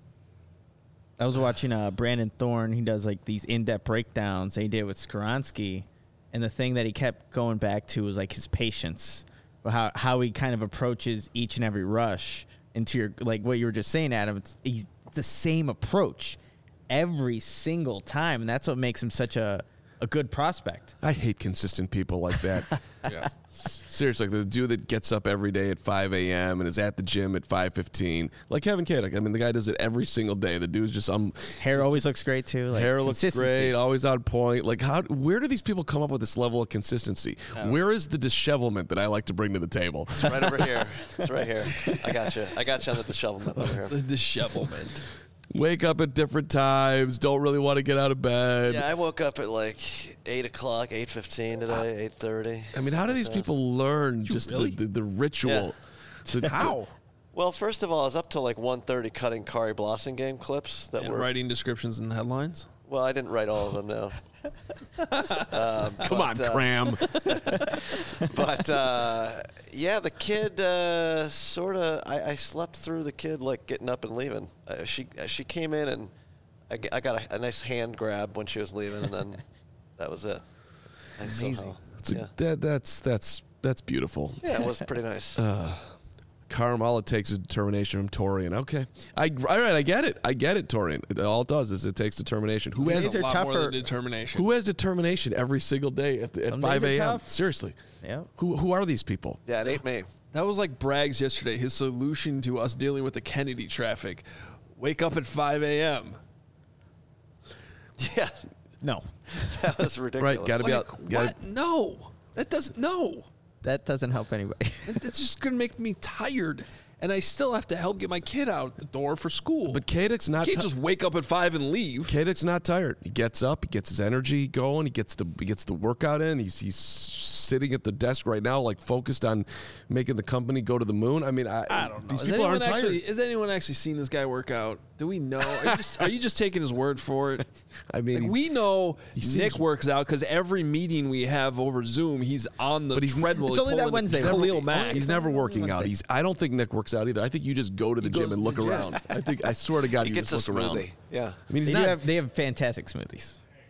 Speaker 3: I was watching uh, Brandon Thorne. He does like these in-depth breakdowns that he did with Skoronski, and the thing that he kept going back to was like his patience, how how he kind of approaches each and every rush. Into your like what you were just saying, Adam. It's he's the same approach every single time, and that's what makes him such a a good prospect.
Speaker 2: I hate consistent people like that.
Speaker 1: Yeah.
Speaker 2: Seriously, like the dude that gets up every day at five a.m. and is at the gym at five fifteen. Like Kevin Kadek. I mean, the guy does it every single day. The dude's just um,
Speaker 3: Hair always looks great too. Like
Speaker 2: hair looks
Speaker 3: consistency.
Speaker 2: great, always on point. Like, how? Where do these people come up with this level of consistency? Where is the dishevelment that I like to bring to the table?
Speaker 4: It's right over here. It's right here. I got you. I got you on the dishevelment over here.
Speaker 1: The dishevelment.
Speaker 2: Wake up at different times. Don't really want to get out of bed.
Speaker 4: Yeah, I woke up at like eight o'clock, eight fifteen today, eight thirty.
Speaker 2: I mean, how do these people learn just
Speaker 1: really?
Speaker 2: the, the, the ritual? To,
Speaker 1: How?
Speaker 4: Well, first of all, I was up till like one thirty cutting Kari Blossom game clips that
Speaker 1: And
Speaker 4: were.
Speaker 1: writing descriptions and headlines.
Speaker 4: Well, I didn't write all of them now. um,
Speaker 2: Come on,
Speaker 4: but, uh,
Speaker 2: Cram.
Speaker 4: But uh, yeah, the kid uh, sort of. I, I slept through the kid like getting up and leaving. Uh, she uh, she came in and I, g- I got a, a nice hand grab when she was leaving, and then that was it. And
Speaker 1: Amazing.
Speaker 4: somehow-
Speaker 2: That's, a-
Speaker 4: yeah.
Speaker 2: that, that's that's that's beautiful.
Speaker 4: yeah, it was pretty nice.
Speaker 2: Carm, all it takes is determination from Torian. Okay, I all right, I get it. I get it, Torian. It, all it does is it takes determination. Who has
Speaker 3: These
Speaker 1: a
Speaker 3: are
Speaker 1: lot more
Speaker 3: tougher-
Speaker 1: than determination.
Speaker 2: who has determination every single day at, the, at
Speaker 3: Some days
Speaker 2: five
Speaker 3: are
Speaker 2: a.m.?
Speaker 3: tough.
Speaker 2: Seriously,
Speaker 3: Yeah.
Speaker 2: who who are these people?
Speaker 4: Yeah, it ain't me.
Speaker 1: That was like Bragg's yesterday. His solution to us dealing with the Kennedy traffic: wake up at five a.m.
Speaker 4: Yeah,
Speaker 3: No,
Speaker 4: that was ridiculous.
Speaker 2: Right, got to be
Speaker 1: Like,
Speaker 2: out. Gotta,
Speaker 1: what? No, that doesn't. No,
Speaker 3: that doesn't help anybody.
Speaker 1: that's just gonna make me tired, and I still have to help get my kid out the door for school.
Speaker 2: but Kadek's not.
Speaker 1: you can't
Speaker 2: ti-
Speaker 1: just wake up at five and leave.
Speaker 2: Kadek's not tired. He gets up. He gets his energy going. He gets the he gets the workout in. He's he's sitting at the desk right now, like focused on making the company go to the moon. I mean, I,
Speaker 1: I don't know.
Speaker 2: These
Speaker 1: Has
Speaker 2: people
Speaker 1: anyone
Speaker 2: aren't tired.
Speaker 1: actually, has anyone actually seen this guy work out? Do we know? Are you just, are you just taking his word for it?
Speaker 2: I mean,
Speaker 1: Like, we know
Speaker 2: seems-
Speaker 1: Nick works out because every meeting we have over Zoom, he's on the
Speaker 2: But he's-
Speaker 1: treadmill.
Speaker 3: It's only that
Speaker 1: pulling
Speaker 3: Wednesday.
Speaker 1: Khalil
Speaker 3: It's
Speaker 1: Mack.
Speaker 2: He's never working out. He's. I don't think Nick works out either. I think you just go to the
Speaker 1: He
Speaker 2: gym
Speaker 1: goes
Speaker 2: and
Speaker 1: to
Speaker 2: look
Speaker 1: the gym.
Speaker 2: around. I think. I swear to God,
Speaker 4: He
Speaker 2: you
Speaker 4: gets a
Speaker 2: just look around.
Speaker 4: smoothie. Yeah.
Speaker 2: I mean, he's
Speaker 3: They,
Speaker 2: not
Speaker 3: do have, they have fantastic smoothies.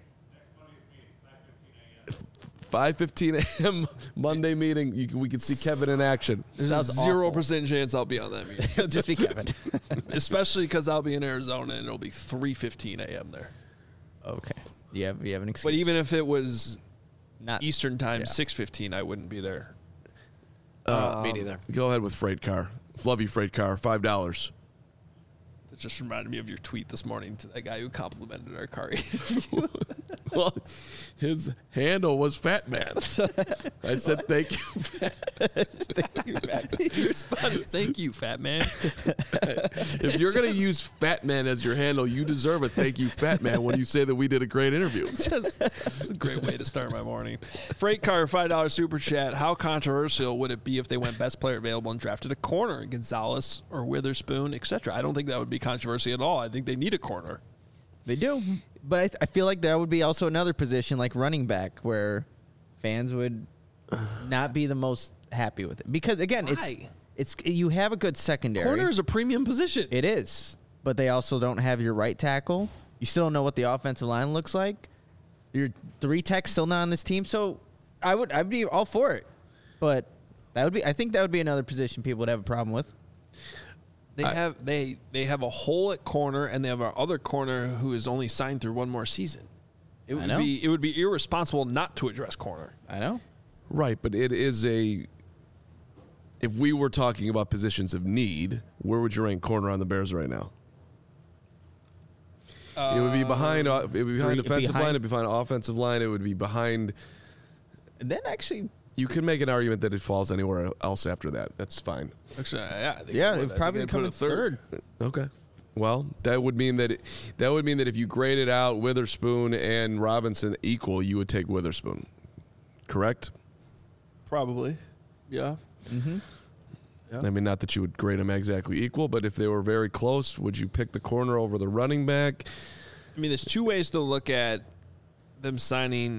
Speaker 2: five fifteen a.m. Monday meeting. You, can- we can see Kevin in action.
Speaker 1: There's a
Speaker 3: Sounds
Speaker 1: zero
Speaker 3: awful.
Speaker 1: percent chance I'll be on that meeting,
Speaker 3: It'll just be Kevin.
Speaker 1: especially because I'll be in Arizona and it'll be three fifteen a.m. there.
Speaker 3: Okay. You have you have an excuse.
Speaker 1: But even if it was
Speaker 3: not
Speaker 1: Eastern time,
Speaker 3: Yeah.
Speaker 1: six fifteen, I wouldn't be there.
Speaker 2: Uh,
Speaker 4: Me neither.
Speaker 2: Go ahead with freight car. Love you, freight car. Five dollars.
Speaker 1: That just reminded me of your tweet this morning to that guy who complimented our car interview.
Speaker 2: Well, his handle was Fat Man. I said, thank you,
Speaker 3: Thank you, Matt.
Speaker 1: You responded, thank you, Fat Man.
Speaker 2: If you're going to use Fat Man as your handle, you deserve a thank you, Fat Man, when you say that we did a great interview.
Speaker 1: Just, it's a great way to start my morning. Freight Car, five dollars super chat. How controversial would it be if they went best player available and drafted a corner, Gonzalez or Witherspoon, et cetera? I don't think that would be controversy at all. I think they need a corner.
Speaker 3: They do. But I, th- I feel like there would be also another position like running back where fans would not be the most happy with it. Because, again, it's
Speaker 1: Why?
Speaker 3: it's you have a good secondary.
Speaker 1: Corner is a premium position.
Speaker 3: It is. But they also don't have your right tackle. You still don't know what the offensive line looks like. Your three techs still not on this team. So I would I'd be all for it. But that would be I think that would be another position people would have a problem with.
Speaker 1: They
Speaker 2: I-
Speaker 1: have they they have a hole at corner, and they have our other corner who is only signed through one more season. It would
Speaker 3: know.
Speaker 1: be it would be irresponsible not to address corner.
Speaker 3: I know.
Speaker 2: Right, but it is a. If we were talking about positions of need, where would you rank corner on the Bears right now? it would be behind. uh, It would be behind
Speaker 3: three-
Speaker 2: defensive
Speaker 3: behind-
Speaker 2: line. It would be behind offensive line. It would be behind.
Speaker 3: Then actually
Speaker 2: You could make an argument that it falls anywhere else after that. That's fine.
Speaker 1: Actually, yeah, I think
Speaker 3: yeah,
Speaker 1: would.
Speaker 3: it
Speaker 1: I think
Speaker 3: probably
Speaker 1: they'd
Speaker 3: come
Speaker 1: put
Speaker 3: in
Speaker 1: a
Speaker 3: third.
Speaker 2: Okay. Well, that would mean that it, that would mean that if you graded out Witherspoon and Robinson equal, you would take Witherspoon. Correct?
Speaker 1: Probably, yeah.
Speaker 3: Mm-hmm.
Speaker 1: Yeah.
Speaker 2: I mean, not that you would grade them exactly equal, but if they were very close, would you pick the corner over the running back?
Speaker 1: I mean, there's two ways to look at them signing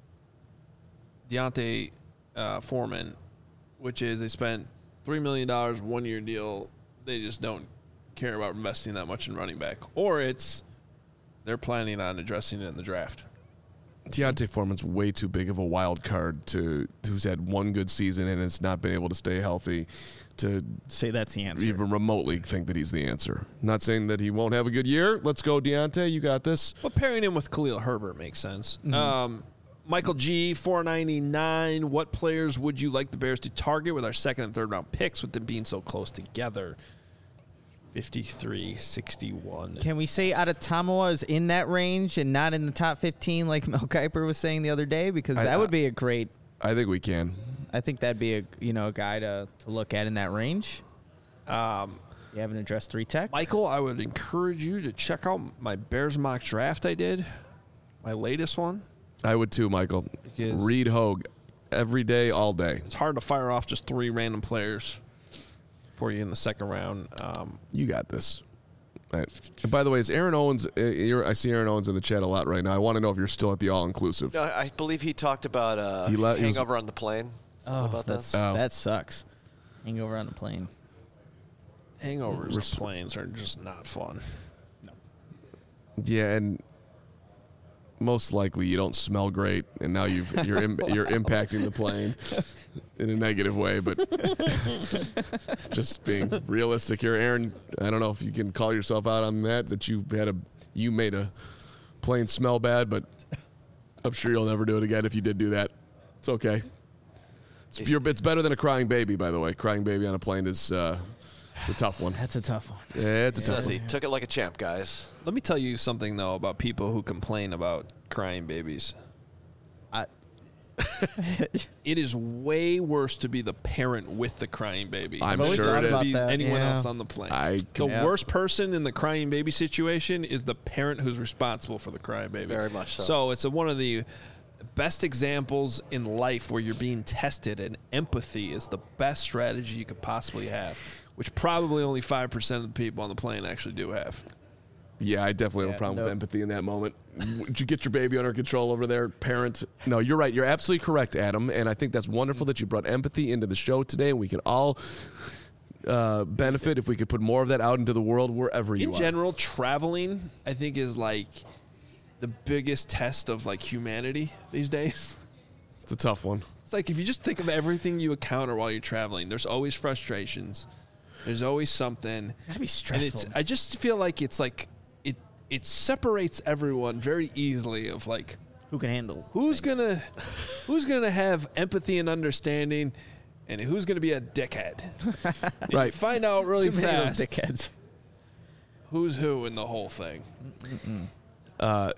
Speaker 1: Deontay uh, Foreman, which is they spent three million dollars, one-year deal. They just don't care about investing that much in running back. Or it's they're planning on addressing it in the draft.
Speaker 2: Deontay Foreman's way too big of a wild card to who's had one good season and has not been able to stay healthy to
Speaker 3: Say that's the answer.
Speaker 2: even remotely think that he's the answer. Not saying that he won't have a good year. Let's go, Deontay. You got this.
Speaker 1: But pairing him with Khalil Herbert makes sense. Um, Michael G, four ninety-nine. What players would you like the Bears to target with our second and third round picks with them being so close together? fifty-three sixty-one.
Speaker 3: Can we say Adetomawa is in that range and not in the top fifteen like Mel Kiper was saying the other day? Because
Speaker 2: I-
Speaker 3: that would be a great
Speaker 2: I think we can.
Speaker 3: I think that'd be a you know a guy to, to look at in that range.
Speaker 1: Um,
Speaker 3: You haven't addressed three tech.
Speaker 1: Michael, I would encourage you to check out my Bears mock draft I did, my latest one.
Speaker 2: I would too, Michael.
Speaker 1: Because-
Speaker 2: Read Hogue every day, all day.
Speaker 1: It's hard to fire off just three random players for you in the second round. Um,
Speaker 2: You got this. Right. And by the way, is Aaron Owens? Uh, you're, I see Aaron Owens in the chat a lot right now. I want to know if you're still at the all-inclusive.
Speaker 4: No, I believe he talked about uh,
Speaker 2: He le- he was-
Speaker 4: hangover on the plane. Something about that.
Speaker 3: that's,
Speaker 2: Oh.
Speaker 3: that sucks. Hangover on the plane.
Speaker 1: hangovers
Speaker 2: Res-
Speaker 1: on planes are just not fun.
Speaker 2: Yeah, and most likely you don't smell great, and now you've you're Im- you're impacting the plane in a negative way. But just being realistic here, Aaron. I don't know if you can call yourself out on that. That you had a you made a plane smell bad, but I'm sure you'll never do it again if you did do that. It's okay. It's, you're, it's better than a crying baby, by the way. Crying baby on a plane is uh, it's a tough one.
Speaker 3: That's a tough one.
Speaker 2: Yeah, it's a tough
Speaker 4: Says
Speaker 2: one.
Speaker 4: he took it like a champ, guys.
Speaker 1: Let me tell you something, though, about people who complain about crying babies.
Speaker 3: I-
Speaker 1: It is way worse to be the parent with the crying baby.
Speaker 2: I'm
Speaker 1: than
Speaker 3: always
Speaker 1: it
Speaker 2: sure
Speaker 1: is
Speaker 2: it
Speaker 1: to
Speaker 2: is.
Speaker 1: be
Speaker 3: about that,
Speaker 1: anyone
Speaker 3: yeah.
Speaker 1: else on the plane.
Speaker 2: I
Speaker 1: the
Speaker 3: Yeah.
Speaker 1: worst person in the crying baby situation is the parent who's responsible for the crying baby.
Speaker 4: Very much so.
Speaker 1: So it's a, one of the best examples in life where you're being tested, and empathy is the best strategy you could possibly have, which probably only five percent of the people on the plane actually do have.
Speaker 2: Yeah, I definitely have
Speaker 3: Yeah,
Speaker 2: a problem
Speaker 3: no.
Speaker 2: with empathy in that moment. Did you get your baby under control over there, parent? No, you're right. You're absolutely correct, Adam. And I think that's wonderful that you brought empathy into the show today. And we can all uh, benefit if we could put more of that out into the world wherever you
Speaker 1: In
Speaker 2: are.
Speaker 1: general, traveling, I think, is like the biggest test of like humanity these days.
Speaker 2: It's a tough one.
Speaker 1: It's like if you just think of everything you encounter while you're traveling, there's always frustrations. There's always something.
Speaker 3: Gotta be
Speaker 1: And
Speaker 3: stressful.
Speaker 1: it's I just feel like it's like it it separates everyone very easily of like
Speaker 3: Who can handle?
Speaker 1: who's
Speaker 3: things.
Speaker 1: gonna who's gonna have empathy and understanding and who's gonna be a dickhead. And
Speaker 2: Right.
Speaker 1: you find out really
Speaker 3: Too many of
Speaker 1: fast
Speaker 3: those dickheads.
Speaker 1: who's who in the whole thing.
Speaker 2: Uh,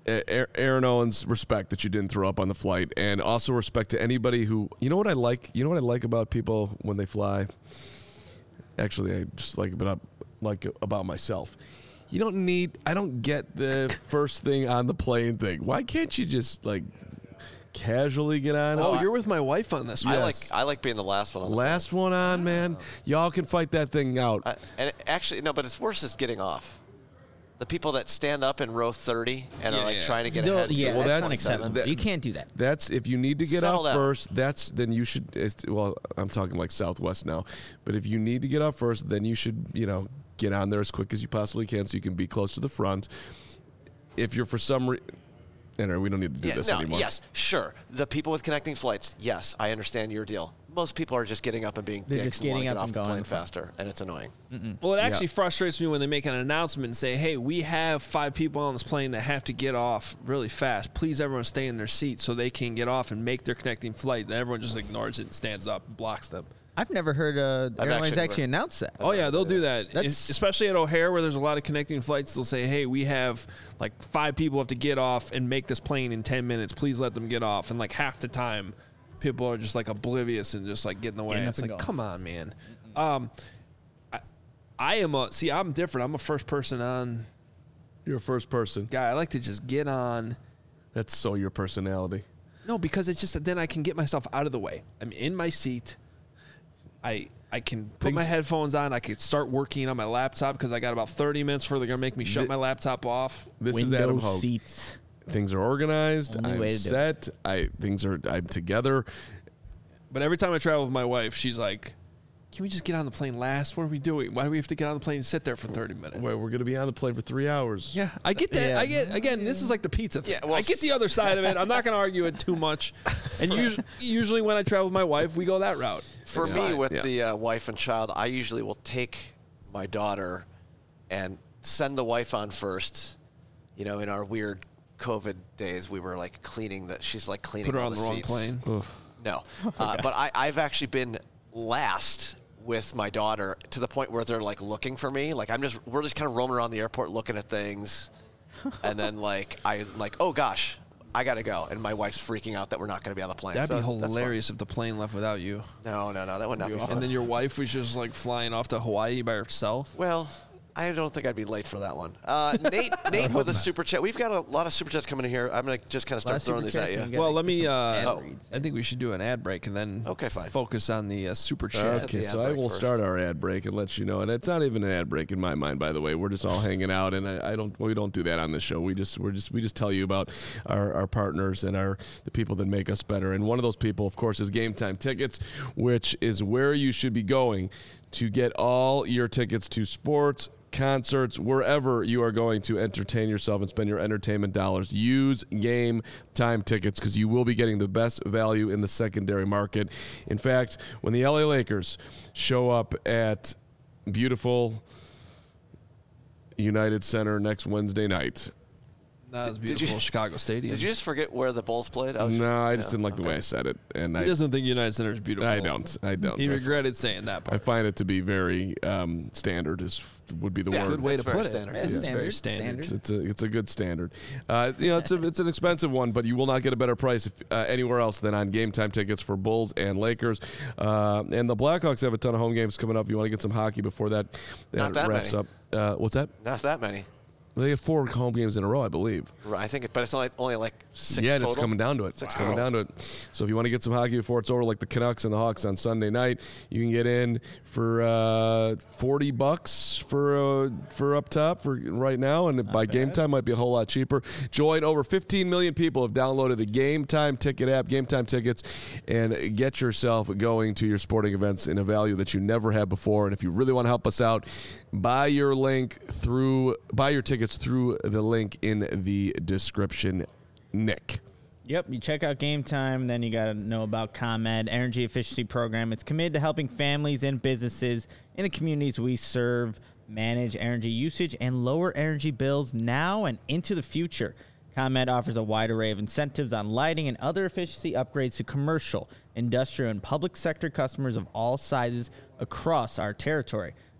Speaker 2: Aaron Owens, respect that you didn't throw up on the flight, and also respect to anybody who, you know what I like, you know what I like about people when they fly. Actually, I just like about like about myself. You don't need. I don't get the first thing on the plane thing. Why can't you just like casually get on?
Speaker 1: Oh,
Speaker 2: it?
Speaker 1: you're with my wife on this.
Speaker 4: I
Speaker 1: One.
Speaker 4: like I like being the last one on the
Speaker 2: Last one on, man. Y'all can fight that thing out.
Speaker 4: Uh, and it- actually, no, but it's worse is getting off. The people that stand up in row thirty and
Speaker 1: Yeah,
Speaker 4: are like
Speaker 1: yeah.
Speaker 4: trying to get
Speaker 3: Don't-
Speaker 4: ahead.
Speaker 3: yeah,
Speaker 2: Well,
Speaker 3: that's
Speaker 2: that's-
Speaker 3: unacceptable.
Speaker 2: that-
Speaker 3: you can't do that.
Speaker 2: That's if you need to get
Speaker 4: Settle
Speaker 2: off
Speaker 4: down.
Speaker 2: first. That's then you should. It's, well, I'm talking like Southwest now, but if you need to get off first, then you should you know get on there as quick as you possibly can so you can be close to the front. If you're for some reason, anyway, we don't need to do
Speaker 4: Yeah,
Speaker 2: this
Speaker 4: no,
Speaker 2: anymore.
Speaker 4: yes, sure. The people with connecting flights, yes, I understand your deal. Most people are just getting up and being
Speaker 3: They're
Speaker 4: dicks
Speaker 3: just
Speaker 4: and want to
Speaker 3: getting
Speaker 4: get
Speaker 3: up
Speaker 4: off
Speaker 3: and
Speaker 4: the
Speaker 3: going
Speaker 4: plane
Speaker 3: in front.
Speaker 4: faster, and it's annoying.
Speaker 1: Well, it actually
Speaker 2: Yeah.
Speaker 1: frustrates me when they make an announcement and say, hey, we have five people on this plane that have to get off really fast. Please, everyone stay in their seats so they can get off and make their connecting flight. Then everyone just ignores it and stands up and blocks them.
Speaker 3: I've never heard uh,
Speaker 4: I've
Speaker 3: airlines
Speaker 4: actually
Speaker 3: actually,
Speaker 4: never-
Speaker 3: announce that.
Speaker 1: Oh, yeah, they'll do that.
Speaker 3: That's-
Speaker 1: Especially at O'Hare where there's a lot of connecting flights. They'll say, hey, we have like five people have to get off and make this plane in ten minutes. Please let them get off. And like half the time, people are just like oblivious and just like getting away.
Speaker 3: Getting up
Speaker 1: It's
Speaker 3: and
Speaker 1: like,
Speaker 3: going.
Speaker 1: come on, man. Um, I, I am a, see, I'm different. I'm a first person on
Speaker 2: You're a first person.
Speaker 1: guy. I like to just get on.
Speaker 2: That's so your personality.
Speaker 1: No, because it's just that then I can get myself out of the way. I'm in my seat. I I can put
Speaker 2: Things-
Speaker 1: my headphones on. I can start working on my laptop because I got about thirty minutes before they're gonna make me shut
Speaker 2: Thi-
Speaker 1: my laptop off.
Speaker 2: This
Speaker 3: Window
Speaker 2: is Adam Hogue.
Speaker 3: seats.
Speaker 2: Things are organized.
Speaker 3: Only
Speaker 2: I'm
Speaker 3: way to do it.
Speaker 2: set. I things are. I'm together.
Speaker 1: But every time I travel with my wife, she's like, "Can we just get on the plane last? What are we doing? Why do we have to get on the plane and sit there for thirty minutes?"
Speaker 2: Wait, we're gonna be on the plane for three hours.
Speaker 1: Yeah, I get that.
Speaker 3: Yeah.
Speaker 1: I get again. This is like the pizza thing.
Speaker 4: Yeah, well,
Speaker 1: I get the other side of it. I'm not going to argue it too much. And usually, usually when I travel with my wife, we go that route.
Speaker 4: For
Speaker 1: It's
Speaker 4: me,
Speaker 1: fine.
Speaker 4: with
Speaker 2: Yeah.
Speaker 4: the uh, wife and child, I usually will take my daughter and send the wife on first. You know, in our weird COVID days, we were like cleaning that. She's like cleaning
Speaker 1: Put her
Speaker 4: all
Speaker 1: on the
Speaker 4: the
Speaker 1: wrong
Speaker 4: seats.
Speaker 1: plane.
Speaker 4: No, uh, but I, I've actually been last with my daughter to the point where they're like looking for me. Like I'm just, we're just kind of roaming around the airport looking at things, and then like I like, oh gosh, I gotta go, and my wife's freaking out that we're not gonna be on the plane.
Speaker 1: That'd
Speaker 4: So
Speaker 1: be
Speaker 4: that's fun.
Speaker 1: hilarious if the plane left without you.
Speaker 4: No, no, no, that would not be fun.
Speaker 1: And then your wife was just like flying off to Hawaii by herself.
Speaker 4: Well, I don't think I'd be late for that one. Uh, Nate, Nate with a super chat. We've got a lot of super chats coming in here. I'm gonna just kind of
Speaker 3: Lot
Speaker 4: start
Speaker 3: of
Speaker 4: throwing
Speaker 3: super
Speaker 4: these
Speaker 3: chats
Speaker 4: at
Speaker 3: and
Speaker 4: you.
Speaker 3: we got-
Speaker 1: Well,
Speaker 3: Gotta
Speaker 1: let
Speaker 3: get
Speaker 1: me.
Speaker 3: some
Speaker 1: Uh,
Speaker 3: ad
Speaker 4: Oh.
Speaker 3: reads.
Speaker 1: I think we should do an ad break and then
Speaker 4: Okay, fine.
Speaker 1: focus on the uh, super chat.
Speaker 2: Okay,
Speaker 4: the
Speaker 2: so
Speaker 4: ad
Speaker 2: I
Speaker 4: break
Speaker 2: will
Speaker 4: first.
Speaker 2: start our ad break and let you know, and it's not even an ad break in my mind, by the way. We're just all hanging out, and I, I don't, we don't do that on this show. We just, we're just, we just tell you about our, our partners and our the people that make us better. And one of those people, of course, is Game Time Tickets, which is where you should be going to get all your tickets to sports, concerts, wherever you are going to entertain yourself and spend your entertainment dollars. Use Game Time Tickets because you will be getting the best value in the secondary market. In fact, when the L A Lakers show up at beautiful United Center next Wednesday night,
Speaker 1: That was
Speaker 4: Did you-
Speaker 1: beautiful Chicago Stadium.
Speaker 4: Did you just forget where the Bulls played? I was
Speaker 2: no, I just
Speaker 4: yeah,
Speaker 2: didn't like the way
Speaker 4: okay.
Speaker 2: I said it, and
Speaker 1: He
Speaker 2: I,
Speaker 1: doesn't think United Center is beautiful.
Speaker 2: I don't, I don't.
Speaker 1: He
Speaker 2: I-
Speaker 1: regretted saying that
Speaker 2: I
Speaker 1: part.
Speaker 2: find it to be very um, standard. Is would be the
Speaker 4: Yeah,
Speaker 2: word.
Speaker 1: Good way
Speaker 4: That's
Speaker 1: to
Speaker 4: very
Speaker 1: put
Speaker 4: standard.
Speaker 1: it.
Speaker 3: Yeah,
Speaker 1: It's
Speaker 3: standard,
Speaker 1: very standard.
Speaker 3: standard.
Speaker 2: It's a it's a good standard. Uh, you know, it's a it's an expensive one, but you will not get a better price if, uh, anywhere else than on Game Time Tickets for Bulls and Lakers. Uh, and the Blackhawks have a ton of home games coming up. If you want to get some hockey before that,
Speaker 4: Not that
Speaker 2: wraps
Speaker 4: many.
Speaker 2: up. Uh, what's that?
Speaker 4: Not that many.
Speaker 2: They have four home games in a row, I believe.
Speaker 4: Right, I think, it, but it's only only like six
Speaker 2: yeah,
Speaker 4: total.
Speaker 2: it's coming down to it.
Speaker 4: Six
Speaker 2: It's coming
Speaker 4: total.
Speaker 2: down to it. So if you want to get some hockey before it's over, like the Canucks and the Hawks on Sunday night, you can get in for uh, forty bucks for uh, for up top for right now, and by game time might be a whole lot cheaper. Join over fifteen million people have downloaded the Game Time Ticket app, Game Time Tickets, and get yourself going to your sporting events in a value that you never had before. And if you really want to help us out, buy your link through buy your tickets through the link in the description. Nick.
Speaker 3: Yep, you check out Game Time, then you got to know about ComEd, Energy Efficiency Program. It's committed to helping families and businesses in the communities we serve manage energy usage and lower energy bills now and into the future. ComEd offers a wide array of incentives on lighting and other efficiency upgrades to commercial, industrial, and public sector customers of all sizes across our territory.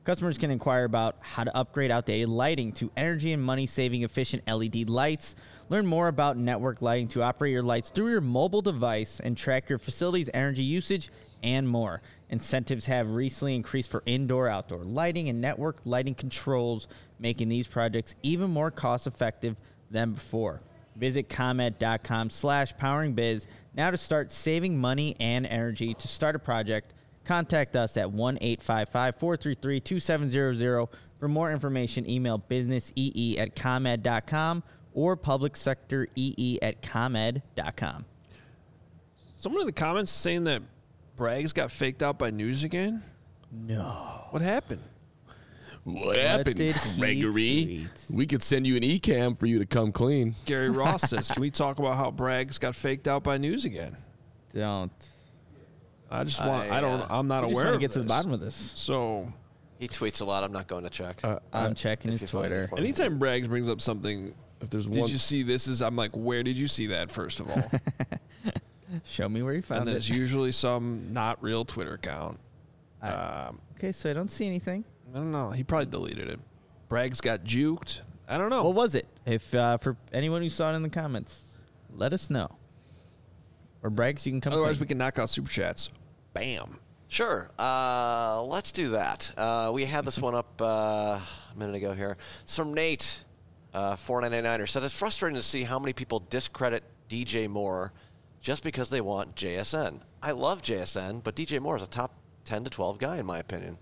Speaker 3: Customers can inquire about how to upgrade outdated lighting to energy and money-saving efficient L E D lights. Learn more about network lighting to operate your lights through your mobile device and track your facility's energy usage and more. Incentives have recently increased for indoor, outdoor lighting and network lighting controls, making these projects even more cost-effective than before. Visit ComEd.com slash poweringbiz now to start saving money and energy. To start a project, contact us at one eight five five, four three three, two seven zero zero. For more information, email businessee at ComEd dot com or publicsectoree at ComEd dot com.
Speaker 1: Someone in the comments saying that Braggs got faked out by News again?
Speaker 3: No.
Speaker 1: What happened?
Speaker 2: What happened,
Speaker 3: did he
Speaker 2: Gregory?
Speaker 3: tweet?
Speaker 2: We could send you an e-cam for you to come clean.
Speaker 1: Gary Ross says, can we talk about how Braggs got faked out by News again?
Speaker 3: Don't.
Speaker 1: I just want, I,
Speaker 4: I,
Speaker 1: don't,
Speaker 4: uh,
Speaker 1: I'm not
Speaker 3: I just
Speaker 1: aware
Speaker 3: want
Speaker 1: of
Speaker 3: to get to the
Speaker 1: this.
Speaker 3: bottom of this.
Speaker 1: So,
Speaker 4: He tweets a lot. I'm not going to check.
Speaker 2: Uh,
Speaker 3: I'm checking
Speaker 4: if
Speaker 3: his
Speaker 4: you find it
Speaker 3: Twitter.
Speaker 4: for me.
Speaker 1: anytime Braggs brings up something,
Speaker 2: if there's
Speaker 1: did
Speaker 2: one,
Speaker 1: you see this? Is I'm like, where did you see that, first of all?
Speaker 3: Show me where you
Speaker 1: And
Speaker 3: found
Speaker 1: then it's
Speaker 3: it.
Speaker 1: usually some not real Twitter account.
Speaker 3: I-
Speaker 1: Um,
Speaker 3: Okay, so I don't see anything.
Speaker 1: I don't know. He probably deleted it. Braggs got juked. I don't know.
Speaker 3: What was it? If uh, for anyone who saw it in the comments, let us know. Or Braggs, you can come.
Speaker 1: Otherwise,
Speaker 3: clean.
Speaker 1: we can knock out super chats. Bam.
Speaker 4: Sure. Uh, let's do that. Uh, we had this one up uh, a minute ago here. It's from Nate, uh, four ninety-niner. Says it's frustrating to see how many people discredit D J Moore just because they want J S N. I love J S N, but D J Moore is a top ten to twelve guy in my opinion.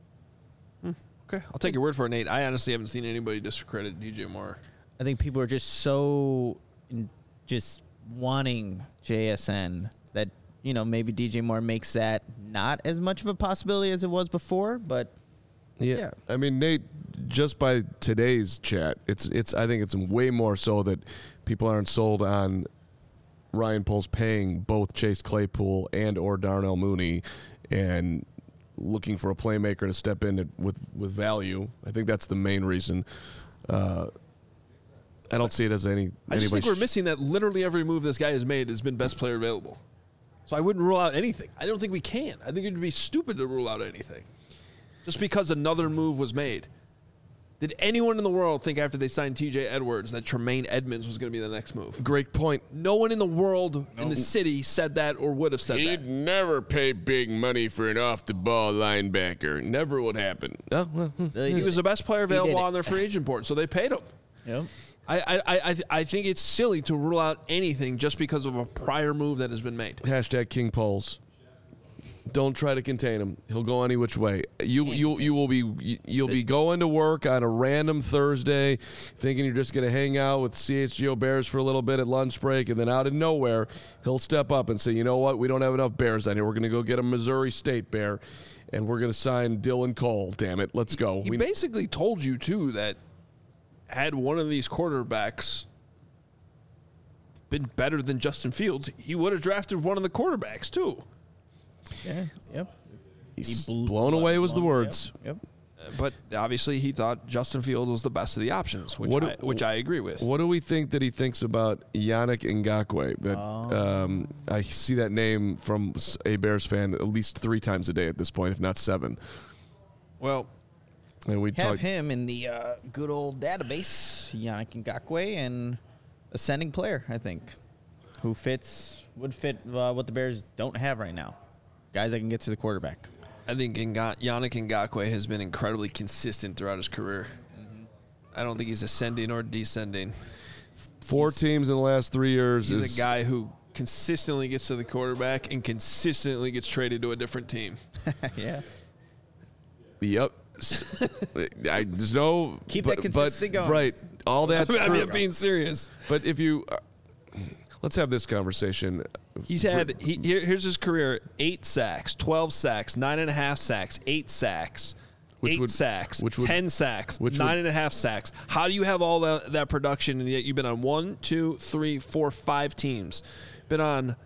Speaker 1: Okay, I'll take your word for it, Nate. I honestly haven't seen anybody discredit D J Moore.
Speaker 3: I think people are just so in, just wanting J S N that, you know, maybe D J Moore makes that not as much of a possibility as it was before, but
Speaker 2: yeah.
Speaker 3: yeah.
Speaker 2: I mean, Nate, just by today's chat, it's it's. I think it's way more so that people aren't sold on Ryan Poles paying both Chase Claypool and or Darnell Mooney, and looking for a playmaker to step in with with value. I think that's the main reason. Uh, I don't see it as any.
Speaker 1: I just
Speaker 2: anybody
Speaker 1: think we're
Speaker 2: sh-
Speaker 1: missing that literally every move this guy has made has been best player available. So I wouldn't rule out anything. I don't think we can. I think it would be stupid to rule out anything. Just because another move was made. Did anyone in the world think after they signed T J Edwards that Tremaine Edmonds was going to be the next move?
Speaker 2: Great point.
Speaker 1: No one in the world in the city said that or would have said that.
Speaker 2: He'd never pay big money for an off-the-ball linebacker. Never would happen. Oh, well, hmm.
Speaker 1: He was the best player
Speaker 3: did
Speaker 1: available
Speaker 3: it.
Speaker 1: on their free agent board, so they paid him.
Speaker 3: Yep.
Speaker 1: I, I, I, I think it's silly to rule out anything just because of a prior move that has been made.
Speaker 2: Hashtag King Poles. Don't try to contain him. He'll go any which way. You you you will be you'll be going to work on a random Thursday, thinking you're just going to hang out with C H G O Bears for a little bit at lunch break, and then out of nowhere, he'll step up and say, "You know what? We don't have enough Bears on here. We're going to go get a Missouri State Bear, and we're going to sign Dylan Cole. Damn it, let's go."
Speaker 1: He
Speaker 2: We-
Speaker 1: basically told you, too, that had one of these quarterbacks been better than Justin Fields, he would have drafted one of the quarterbacks, too.
Speaker 3: Yeah. Yep.
Speaker 2: He's
Speaker 3: He blew-
Speaker 2: blown away was the
Speaker 3: blown-
Speaker 2: words.
Speaker 3: Yep.
Speaker 1: But obviously, he thought Justin Fields was the best of the options, which,
Speaker 2: What do-
Speaker 1: I, which I agree with.
Speaker 2: What do we think that he thinks about Yannick Ngakoue? That
Speaker 3: Oh.
Speaker 2: um, I see that name from s- a Bears fan at least three times a day at this point, if not seven.
Speaker 1: Well,
Speaker 2: And we
Speaker 3: Have
Speaker 2: talked.
Speaker 3: him in the uh, good old database, Yannick Ngakoue, and ascending player, I think, who fits would fit uh, what the Bears don't have right now. Guys that can get to the quarterback.
Speaker 1: I think Nga- Yannick Ngakoue has been incredibly consistent throughout his career. I don't think he's ascending or descending.
Speaker 2: Four teams in the last three years.
Speaker 1: He's
Speaker 2: is,
Speaker 1: a guy who consistently gets to the quarterback and consistently gets traded to a different team.
Speaker 3: Yeah.
Speaker 2: Yep. S- I, there's no.
Speaker 3: Keep
Speaker 2: but,
Speaker 3: that consistency
Speaker 2: but,
Speaker 3: going.
Speaker 2: Right. All that's
Speaker 1: I mean,
Speaker 2: true.
Speaker 1: I'm being serious.
Speaker 2: But if you. Uh, let's have this conversation.
Speaker 1: He's had, he, here, here's his career, eight sacks, twelve sacks, nine and a half sacks, eight sacks,
Speaker 2: Which
Speaker 1: eight
Speaker 2: would-
Speaker 1: sacks,
Speaker 2: which would-
Speaker 1: ten sacks,
Speaker 2: which
Speaker 1: nine
Speaker 2: would-
Speaker 1: and a half sacks. How do you have all that, that production and yet you've been on one, two, three, four, five teams? Been on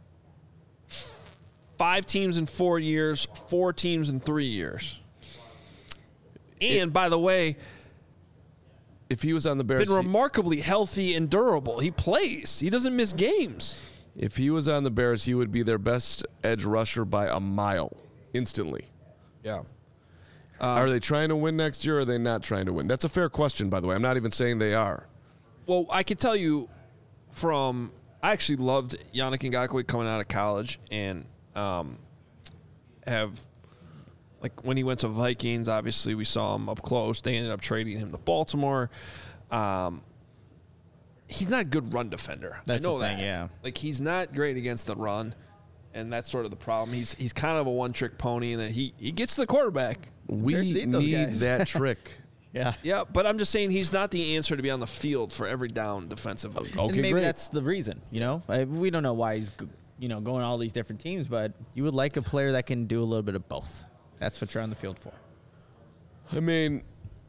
Speaker 1: five teams in four years, four teams in three years. And by the way,
Speaker 2: If he was on the Bears.
Speaker 1: been remarkably healthy and durable. He plays. He doesn't miss games.
Speaker 2: If he was on the Bears, he would be their best edge rusher by a mile, instantly.
Speaker 1: Yeah.
Speaker 2: are they trying to win next year or are they not trying to win? That's a fair question, by the way. I'm not even saying they are.
Speaker 1: Well, I can tell you from I actually loved Yannick Ngakoue coming out of college and um, have like when he went to Vikings, obviously we saw him up close. They ended up trading him to Baltimore. Um, he's not a good run defender.
Speaker 3: That's
Speaker 1: I know
Speaker 3: the thing,
Speaker 1: that.
Speaker 3: yeah.
Speaker 1: Like he's not great against the run, and that's sort of the problem. He's he's kind of a one trick pony, and that he he gets to the quarterback.
Speaker 2: We
Speaker 3: Bears need those
Speaker 2: need
Speaker 3: guys.
Speaker 2: that trick.
Speaker 3: Yeah.
Speaker 1: Yeah, but I'm just saying he's not the answer to be on the field for every down defensively.
Speaker 2: Okay,
Speaker 3: and maybe
Speaker 2: great.
Speaker 3: that's the reason, you know? I, we don't know why he's, g- you know, going all these different teams, but you would like a player that can do a little bit of both. That's what you're on the field for.
Speaker 2: I mean,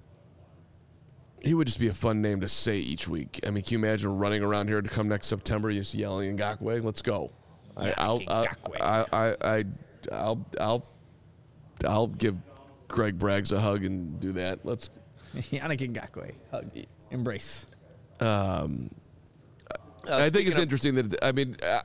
Speaker 2: he would just be a fun name to say each week. I mean, can you imagine running around here to come next September, just yelling Ngakoue? Let's go. I, I'll, I'll, I, I, I, I'll, I'll, I'll give Greg Braggs a hug and do that. Let's.
Speaker 3: Yannick Ngakoue. Hug. Embrace.
Speaker 2: Um,
Speaker 4: Uh,
Speaker 2: I think
Speaker 4: speaking
Speaker 2: it's
Speaker 4: of-
Speaker 2: interesting that I mean, uh,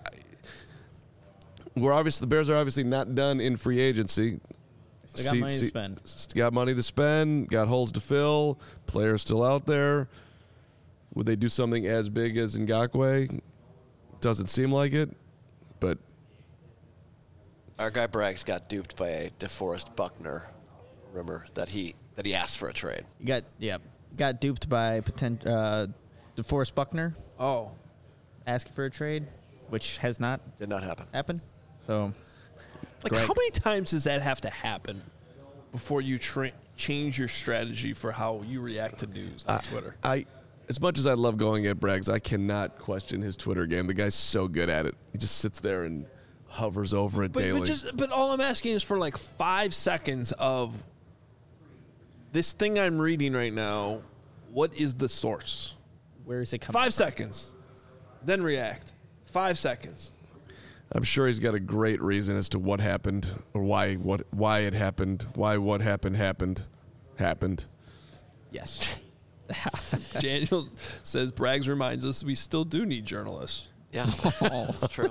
Speaker 2: we're obviously the Bears are obviously not done in free agency.
Speaker 3: They got money to spend.
Speaker 2: s- Got money to spend. Got holes to fill. Players still out there. Would they do something as big as Ngakoue? Doesn't seem like it, but
Speaker 4: Our guy Braggs got duped by a DeForest Buckner rumor that he that he asked for a trade.
Speaker 3: You got, yeah, got duped by potent, uh, DeForest Buckner
Speaker 1: Oh,
Speaker 3: asking for a trade, which has not
Speaker 4: Did not happen.
Speaker 3: happened. So,
Speaker 1: like
Speaker 3: Greg.
Speaker 1: how many times does that have to happen before you tra- change your strategy for how you react to news on Twitter?
Speaker 2: I, as much as I love going at Braggs, I cannot question his Twitter game. The guy's so good at it. He just sits there and hovers over it
Speaker 1: But,
Speaker 2: daily.
Speaker 1: but just but all I'm asking is for like five seconds of this thing I'm reading right now. What is the source?
Speaker 3: where is it coming
Speaker 1: Five
Speaker 3: from?
Speaker 1: seconds, then react. Five seconds.
Speaker 2: I'm sure he's got a great reason as to what happened or why what why it happened, why what happened happened happened.
Speaker 3: Yes.
Speaker 1: Daniel says Braggs reminds us we still do need journalists.
Speaker 4: Yeah, that's true.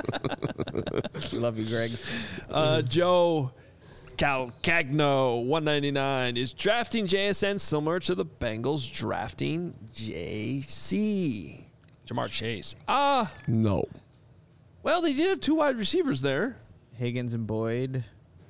Speaker 3: Love you, Greg.
Speaker 1: Uh, Joe Calcagno, one ninety-nine, is drafting J S N similar to the Bengals drafting J C. Jamar Chase. Ah,
Speaker 2: No.
Speaker 1: well, they did have two wide receivers there.
Speaker 3: Higgins and Boyd.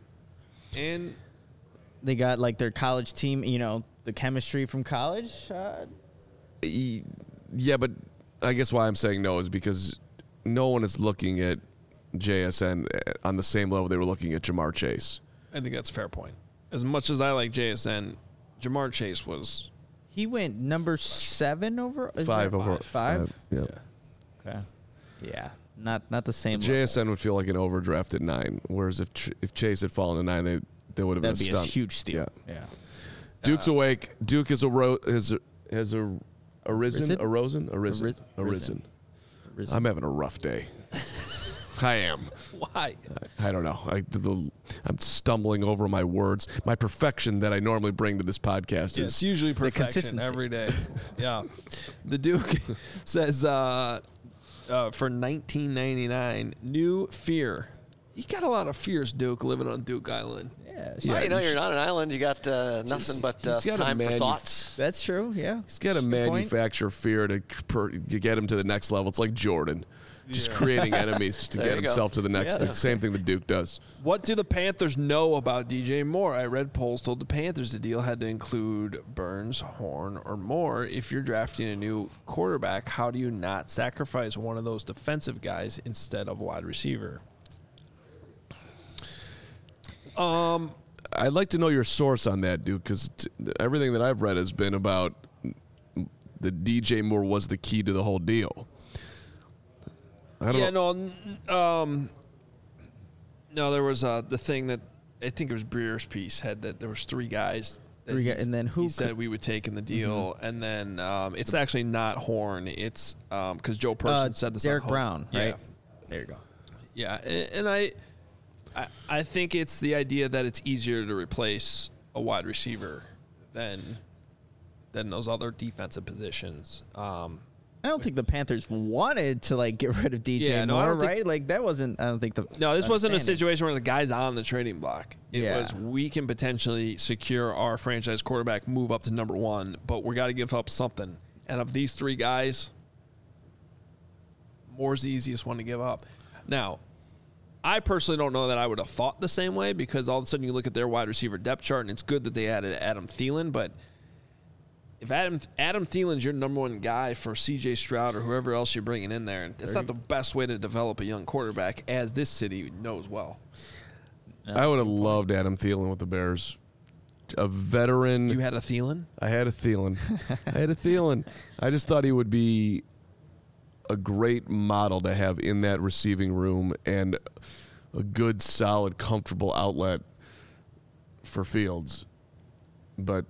Speaker 1: And
Speaker 3: They got like their college team, you know, the chemistry from college. Uh,
Speaker 2: E- Yeah, but I guess why I'm saying no is because no one is looking at J S N on the same level they were looking at Jamar Chase.
Speaker 1: I think that's a fair point. As much as I like J S N, Jamar Chase was
Speaker 3: he went number seven over. Is
Speaker 2: Five
Speaker 3: that
Speaker 2: over
Speaker 3: five.
Speaker 2: Yeah.
Speaker 3: Okay. Yeah. Not not the same.
Speaker 2: J S N
Speaker 3: level.
Speaker 2: would feel like an overdraft at nine, whereas if Ch- if Chase had fallen to nine, they they would have been
Speaker 3: That'd be
Speaker 2: a
Speaker 3: a
Speaker 2: stunt.
Speaker 3: huge steal.
Speaker 2: Yeah.
Speaker 3: Yeah.
Speaker 2: Duke's awake. Duke is a ro- has has a arisen,
Speaker 3: Risen?
Speaker 2: arisen, arisen,
Speaker 3: Aris-
Speaker 2: arisen.
Speaker 3: Risen.
Speaker 2: I'm having a rough day. I am.
Speaker 1: why?
Speaker 2: I, I don't know. I, the, I'm stumbling over my words. My perfection that I normally bring to this podcast
Speaker 1: It's
Speaker 2: is
Speaker 1: usually perfection
Speaker 3: consistency.
Speaker 1: every day. Yeah. The Duke says uh, uh, for nineteen ninety-nine, new fear. You got a lot of fears, Duke, living on Duke Island.
Speaker 3: Yeah.
Speaker 2: Yeah,
Speaker 4: Well, you know,
Speaker 2: you
Speaker 4: you're
Speaker 2: should-
Speaker 4: on an island. You got uh, nothing but uh,
Speaker 2: he's gotta
Speaker 4: time for
Speaker 2: manuf-
Speaker 4: thoughts.
Speaker 3: That's true. Yeah.
Speaker 2: he's got to
Speaker 3: Good point.
Speaker 2: manufacture fear to, per, to get him to the next level. It's like Jordan, just creating enemies just to
Speaker 4: There
Speaker 2: get
Speaker 4: you go.
Speaker 2: himself to the next
Speaker 4: Yeah,
Speaker 2: thing.
Speaker 4: that's
Speaker 2: Same thing that Duke does.
Speaker 1: What do the Panthers know about D J Moore? I read polls told the Panthers the deal had to include Burns, Horn, or Moore. If you're drafting a new quarterback, how do you not sacrifice one of those defensive guys instead of wide receiver? Um,
Speaker 2: I'd like to know your source on that, Duke, because t- everything that I've read has been about the D J Moore was the key to the whole deal. I don't
Speaker 1: yeah,
Speaker 2: know.
Speaker 1: no, n- um, no, there was uh, the thing that I think it was Breer's piece had that there was three guys. That
Speaker 3: Three
Speaker 1: he-
Speaker 3: guy- and then who
Speaker 1: he
Speaker 3: could-
Speaker 1: said we would take in the deal, and then um, it's actually not Horn. It's because Joe Person
Speaker 3: Uh,
Speaker 1: said this.
Speaker 3: Derek
Speaker 1: on Ho-
Speaker 3: Brown,
Speaker 1: yeah.
Speaker 3: right? There you go.
Speaker 1: Yeah, a- and I, I, I think it's the idea that it's easier to replace a wide receiver than, than those other defensive positions. Um,
Speaker 3: I don't think the Panthers wanted to like get rid of D J
Speaker 1: Yeah, no, I
Speaker 3: Moore,
Speaker 1: don't think-
Speaker 3: right? Like that wasn't. I don't think the.
Speaker 1: No, this wasn't a
Speaker 3: understanding.
Speaker 1: situation where the guy's on the trading block. It
Speaker 3: Yeah.
Speaker 1: was we can potentially secure our franchise quarterback, move up to number one, but we got to give up something. And of these three guys, Moore's the easiest one to give up. Now, I personally don't know that I would have thought the same way because all of a sudden you look at their wide receiver depth chart and it's good that they added Adam Thielen, but if Adam Adam Thielen's your number one guy for C J Stroud or whoever else you're bringing in there, that's not the best way to develop a young quarterback, as this city knows well.
Speaker 2: I would have loved Adam Thielen with the Bears. A veteran.
Speaker 1: You had a Thielen?
Speaker 2: I had a Thielen. I had a Thielen. I just thought he would be a great model to have in that receiving room and a good, solid, comfortable outlet for Fields. But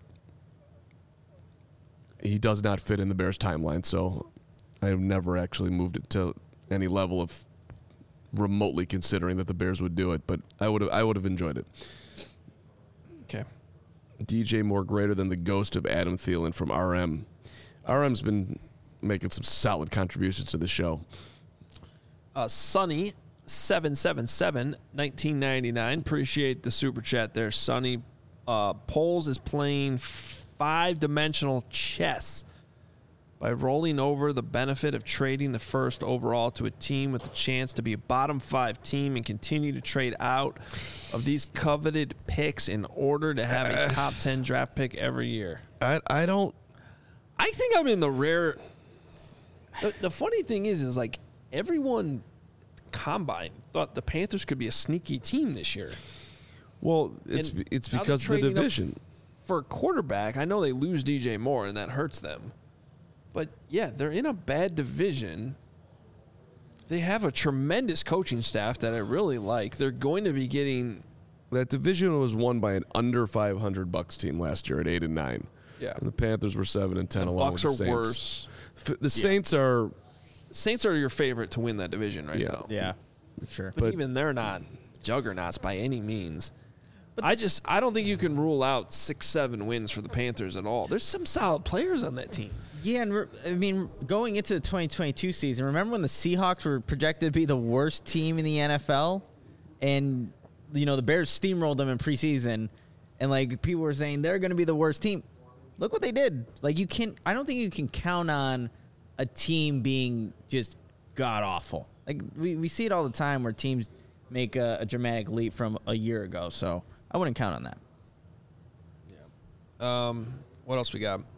Speaker 2: he does not fit in the Bears' timeline, so I have never actually moved it to any level of remotely considering that the Bears would do it. But I would have, I would have enjoyed it.
Speaker 1: Okay.
Speaker 2: D J Moore greater than the ghost of Adam Thielen from R M. R M's been making some solid contributions to the show.
Speaker 1: Uh, Sonny seven seven seven nineteen ninety-nine. Appreciate the super chat there, Sonny. Uh, Poles is playing five-dimensional chess by rolling over the benefit of trading the first overall to a team with the chance to be a bottom five team and continue to trade out of these coveted picks in order to have a top ten draft pick every year.
Speaker 2: I I don't.
Speaker 1: I think I'm in the rare. The, the funny thing is, is like everyone combine thought the Panthers could be a sneaky team this year.
Speaker 2: Well, it's
Speaker 1: And
Speaker 2: it's
Speaker 1: now they're
Speaker 2: because of the
Speaker 1: trading up
Speaker 2: division.
Speaker 1: For a quarterback, I know they lose D J Moore and that hurts them. But yeah, they're in a bad division. They have a tremendous coaching staff that I really like. They're going to be getting.
Speaker 2: That division was won by an under five hundred Bucks team last year at eight and nine.
Speaker 1: Yeah.
Speaker 2: And the Panthers were seven and ten
Speaker 1: The
Speaker 2: along
Speaker 1: Bucks
Speaker 2: with
Speaker 1: are
Speaker 2: the Saints.
Speaker 1: worse.
Speaker 2: F- The Saints are,
Speaker 1: Saints are your favorite to win that division right
Speaker 2: Yeah.
Speaker 1: now.
Speaker 3: Yeah, for sure.
Speaker 1: But,
Speaker 2: But-
Speaker 1: even they're not juggernauts by any means. But I just I don't think you can rule out six, seven wins for the Panthers at all. There's some solid players on that team.
Speaker 3: Yeah, and re- I mean, going into the twenty twenty-two season, remember when the Seahawks were projected to be the worst team in the N F L, and you know the Bears steamrolled them in preseason, and like people were saying they're going to be the worst team. Look what they did. Like you can, I don't think you can count on a team being just god awful. Like we, we see it all the time where teams make a, a dramatic leap from a year ago. So I wouldn't count on that.
Speaker 1: Um, what else we got?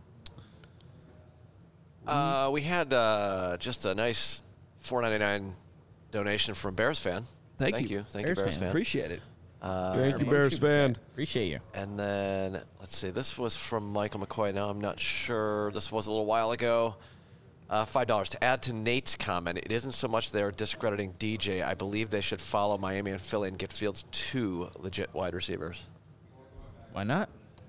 Speaker 4: Uh, we had uh, just a nice four ninety-nine donation from Bears fan.
Speaker 1: Thank
Speaker 4: Thank
Speaker 1: you.
Speaker 4: you. Thank
Speaker 3: Bears
Speaker 4: you, Bears
Speaker 3: fan.
Speaker 4: fan.
Speaker 1: Appreciate it.
Speaker 4: Uh,
Speaker 2: thank you, Bears fan.
Speaker 3: Appreciate you.
Speaker 4: And then, let's see, this was from Michael McCoy. Now, I'm not sure. This was a little while ago. Uh, five dollars. To add to Nate's comment, it isn't so much they're discrediting D J. I believe they should follow Miami and Philly and get Fields two legit wide receivers.
Speaker 3: Why not?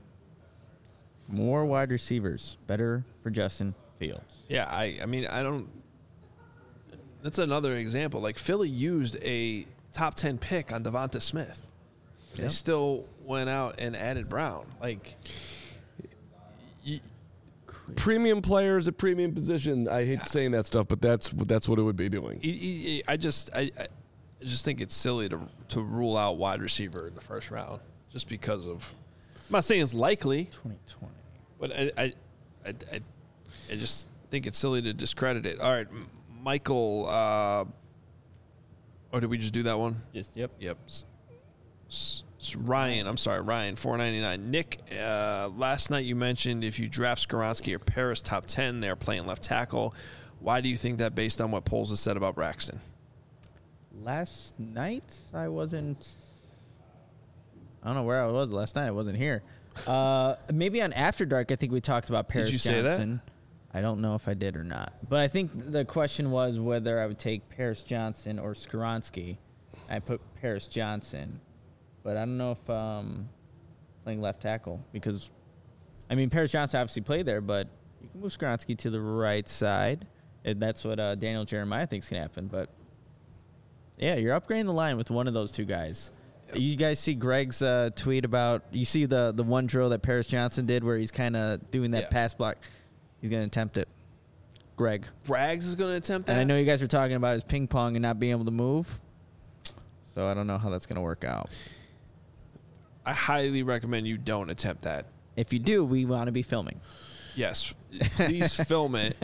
Speaker 3: More wide receivers. Better for Justin Fields.
Speaker 1: Yeah, I, I mean, I don't. That's another example. Like Philly used a top ten pick on Devonta Smith. They
Speaker 3: Yep.
Speaker 1: still went out and added Brown. Like, y-
Speaker 2: Premium players at premium position. I hate saying that stuff, but that's that's what it would be doing.
Speaker 1: y- y- I just, I, I just think it's silly to to rule out wide receiver in the first round just because of. I'm not saying it's likely,
Speaker 3: twenty twenty.
Speaker 1: but I, I, I, I, I just think it's silly to discredit it. All right, M- Michael. Uh, or did we just do that one?
Speaker 3: Just yep.
Speaker 1: Yep. S- s- s- Ryan, I'm sorry, Ryan, four ninety-nine. Nick, uh, last night you mentioned if you draft Skoronski or Paris top ten, they're playing left tackle. Why do you think that based on what Poles has said about Braxton?
Speaker 3: Last night I wasn't. I don't know where I was last night. I wasn't here. Uh, maybe on After Dark, I think we talked about Paris
Speaker 1: you say that?
Speaker 3: Johnson. I don't know if I did or not, but I think the question was whether I would take Paris Johnson or Skoronski. I put Paris Johnson, but I don't know if um, playing left tackle because, I mean, Paris Johnson obviously played there, but you can move Skoronski to the right side, and that's what uh, Daniel Jeremiah thinks can happen. But yeah, you're upgrading the line with one of those two guys. You guys see Greg's uh, tweet about you see the the one drill that Paris Johnson did where he's kind of doing that
Speaker 1: Yeah.
Speaker 3: pass block. He's going to attempt it. Greg.
Speaker 1: Braggs is going to attempt that.
Speaker 3: And I know you guys were talking about his ping pong and not being able to move. So I don't know how that's going to work out.
Speaker 1: I highly recommend you don't attempt that.
Speaker 3: If you do, we want to be filming.
Speaker 1: Yes, please film it.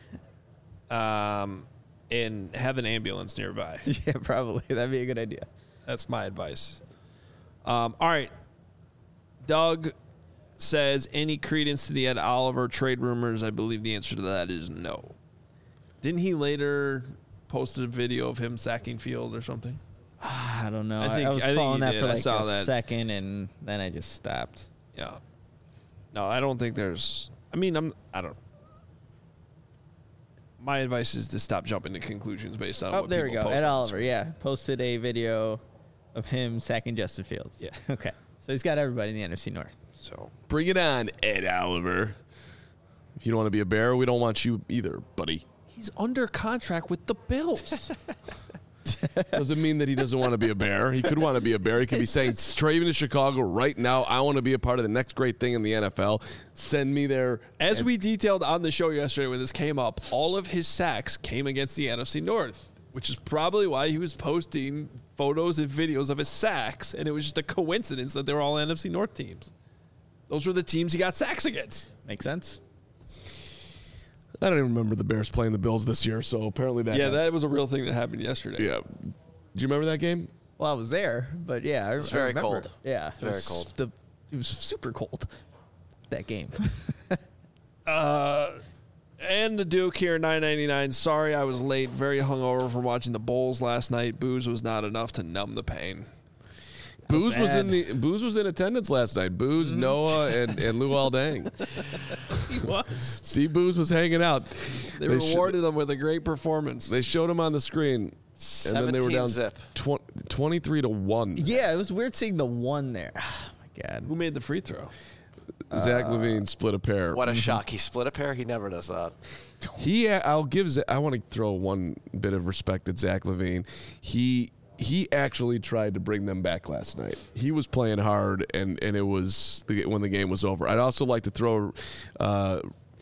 Speaker 1: Um, and have an ambulance nearby.
Speaker 3: Yeah, probably. That'd be a good idea.
Speaker 1: That's my advice. Um, all right. Doug says, any credence to the Ed Oliver trade rumors? I believe the answer to that is no. Didn't he later post a video of him sacking Field or something?
Speaker 3: I don't know.
Speaker 1: I
Speaker 3: I,
Speaker 1: think-
Speaker 3: I was
Speaker 1: I think
Speaker 3: following
Speaker 1: he
Speaker 3: that
Speaker 1: did.
Speaker 3: for
Speaker 1: I
Speaker 3: like
Speaker 1: saw
Speaker 3: a
Speaker 1: that.
Speaker 3: second, and then I just stopped.
Speaker 1: Yeah. No, I don't think there's. I mean, I'm. I don't. My advice is to stop jumping to conclusions based on.
Speaker 3: Oh,
Speaker 1: what
Speaker 3: there we
Speaker 1: people
Speaker 3: go.
Speaker 1: post
Speaker 3: Ed
Speaker 1: on
Speaker 3: Oliver,
Speaker 1: screen.
Speaker 3: yeah, posted a video of him sacking Justin Fields.
Speaker 1: Yeah.
Speaker 3: Okay. So he's got everybody in the N F C North.
Speaker 1: So
Speaker 2: Bring it on, Ed Oliver. If you don't want to be a Bear, we don't want you either, buddy.
Speaker 1: he's under contract with the Bills.
Speaker 2: Doesn't mean that he doesn't want to be a Bear. He could want to be a Bear. He could be saying, straight to Chicago right now, I want to be a part of the next great thing in the N F L. Send me there.
Speaker 1: As
Speaker 2: And
Speaker 1: we detailed on the show yesterday when this came up, all of his sacks came against the N F C North, which is probably why he was posting photos and videos of his sacks, and it was just a coincidence that they were all N F C North teams. Those were the teams he got sacks against.
Speaker 3: Makes sense.
Speaker 2: I don't even remember the Bears playing the Bills this year, so apparently that
Speaker 1: Yeah,
Speaker 2: has-
Speaker 1: that was a real thing that happened yesterday.
Speaker 2: Yeah. Do you remember that game?
Speaker 3: Well, I was there, but yeah, I,
Speaker 4: It's
Speaker 3: I
Speaker 4: very
Speaker 3: remember.
Speaker 4: cold.
Speaker 3: Yeah,
Speaker 4: It's very
Speaker 3: it was
Speaker 4: cold.
Speaker 3: The, it was super cold. That game.
Speaker 1: Uh, and the Duke here, nine ninety-nine. Sorry I was late. Very hungover from watching the Bulls last night. Booze was not enough to numb the pain.
Speaker 2: Booze was in
Speaker 3: bad.
Speaker 2: the Booze was in attendance last night. Booze, Noah, and, and Lou Aldang.
Speaker 1: He was.
Speaker 2: See, Booze was hanging out.
Speaker 1: They,
Speaker 2: They sh-
Speaker 1: rewarded him with a great performance.
Speaker 2: They showed him on the screen, and then they were down
Speaker 4: zip.
Speaker 2: tw- twenty-three to one.
Speaker 3: Yeah, it was weird seeing the one there. Oh, my God.
Speaker 1: Who made the free throw?
Speaker 2: Zach Levine split a pair.
Speaker 4: What a shock. He split a pair. He never does that.
Speaker 2: He, I'll give. Z- I want to throw one bit of respect at Zach Levine. He he actually tried to bring them back last night. He was playing hard, and and it was the, when the game was over. I'd also like to throw. Uh,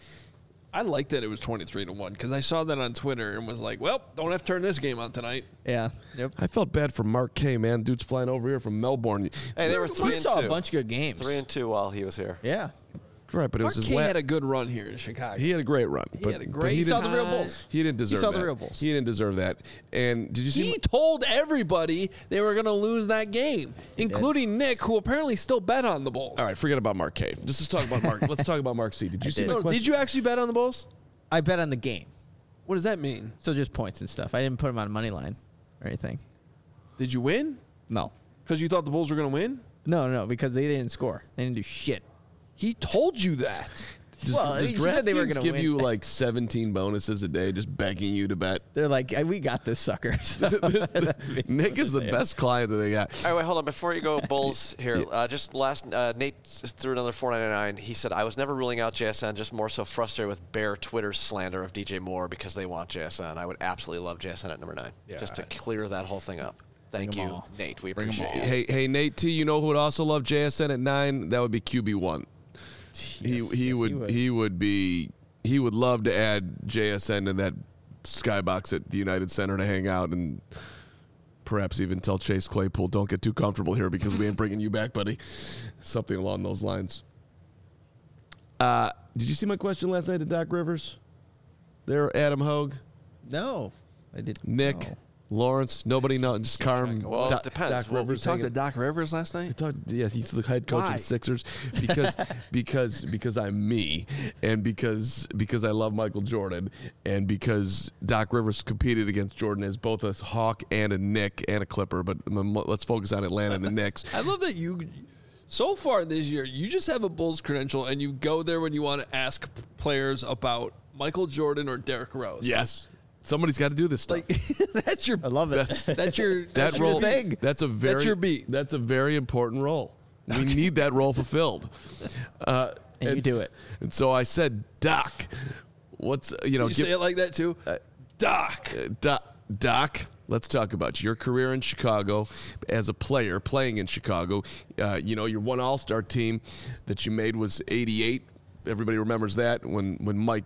Speaker 1: I liked that it was twenty-three to one because I saw that on Twitter and was like, well, don't have to turn this game on tonight.
Speaker 3: Yeah. Yep.
Speaker 2: I felt bad for Mark Kay, man. Dude's flying over here from Melbourne.
Speaker 4: Hey, they were
Speaker 3: We
Speaker 4: three and
Speaker 3: saw
Speaker 4: two.
Speaker 3: a bunch of good games.
Speaker 4: Three and two while he was here.
Speaker 3: Yeah.
Speaker 2: Right, but it
Speaker 1: Mark
Speaker 2: was his
Speaker 1: Kay
Speaker 2: la-
Speaker 1: had a good run here in Chicago.
Speaker 2: He had a great run.
Speaker 1: He
Speaker 2: but,
Speaker 1: had a
Speaker 2: but
Speaker 1: great
Speaker 2: he
Speaker 3: He saw
Speaker 2: didn't-
Speaker 3: the real
Speaker 1: time.
Speaker 3: Bulls.
Speaker 2: He didn't deserve
Speaker 3: saw
Speaker 2: that.
Speaker 3: the real Bulls.
Speaker 2: He didn't deserve that. And did you see?
Speaker 1: He
Speaker 2: my-
Speaker 1: told everybody they were going to lose that game, including Nick, who apparently still bet on the Bulls.
Speaker 2: All right, forget about Mark K. Just let's talk about Mark. Let's talk about Mark C. Did you see
Speaker 3: did.
Speaker 2: my
Speaker 1: No,
Speaker 2: question?
Speaker 1: did you actually bet on the Bulls?
Speaker 3: I bet on the game.
Speaker 1: What does that mean?
Speaker 3: So just points and stuff. I didn't put him on a money line or anything.
Speaker 1: Did you win?
Speaker 3: No.
Speaker 1: Because you thought the Bulls were going to win?
Speaker 3: No, no, because they didn't score. They didn't do shit.
Speaker 1: He told you that.
Speaker 2: Does,
Speaker 3: Well,
Speaker 2: does
Speaker 3: he said they were
Speaker 2: DraftKings
Speaker 3: gonna
Speaker 2: give
Speaker 3: win.
Speaker 2: you like seventeen bonuses a day, just begging you to bet?
Speaker 3: They're like, "Hey, we got this sucker." So
Speaker 2: Nick is the best client that they got.
Speaker 4: All right, wait, hold on. Before you go, Bulls here. Uh, just last, uh, Nate s- threw another four ninety-nine. He said, "I was never ruling out J S N. Just more so frustrated with Bear Twitter's slander of D J Moore because they want J S N. I would absolutely love J S N at number nine.
Speaker 1: Yeah.
Speaker 4: Just to clear that whole thing up. Thank
Speaker 3: Bring 'em
Speaker 4: you,
Speaker 3: all.
Speaker 4: Nate. We
Speaker 3: Bring 'em
Speaker 4: appreciate
Speaker 3: all.
Speaker 4: it.
Speaker 2: Hey, hey, Nate T. You know who would also love J S N at nine? That would be Q B one. He
Speaker 3: Yes,
Speaker 2: he
Speaker 3: yes,
Speaker 2: would he would be he would love to add J S N to that skybox at the United Center to hang out and perhaps even tell Chase Claypool, don't get too comfortable here because we ain't bringing you back, buddy. Something along those lines. Uh, did you see my question last night to Doc Rivers? There, Adam Hogue,
Speaker 3: no, I did.
Speaker 2: Nick,
Speaker 3: no.
Speaker 2: Lawrence, nobody knows. Just Carm.
Speaker 4: Well, it
Speaker 2: Doc,
Speaker 4: depends.
Speaker 2: Doc
Speaker 4: Well, we
Speaker 2: Rivers.
Speaker 1: You talked to
Speaker 2: hanging-
Speaker 1: Doc Rivers last
Speaker 2: I
Speaker 1: night?
Speaker 2: talked, yeah, he's the head coach
Speaker 1: Why?
Speaker 2: of the Sixers because because because I'm me, and because because I love Michael Jordan, and because Doc Rivers competed against Jordan as both a Hawk and a Knick and a Clipper. But um, let's focus on Atlanta and the Knicks.
Speaker 1: I love that you, so far this year, you just have a Bulls credential and you go there when you want to ask p- players about Michael Jordan or Derrick Rose.
Speaker 2: Yes, somebody's got to do this stuff.
Speaker 1: Like, that's your,
Speaker 3: I love it.
Speaker 2: That's-
Speaker 1: that's your,
Speaker 2: that
Speaker 1: that's your
Speaker 2: role,
Speaker 1: thing.
Speaker 2: that's a very
Speaker 1: That's your beat.
Speaker 2: That's a very important role. We need that role fulfilled, uh,
Speaker 3: And you do it.
Speaker 2: And so I said, Doc, what's you know,
Speaker 1: You
Speaker 2: give-
Speaker 1: say it like that too? Doc.
Speaker 2: Uh, Doc, Doc, let's talk about your career in Chicago as a player playing in Chicago. Uh, you know, your one All-Star team that you made was eighty-eight. Everybody remembers that when, when Mike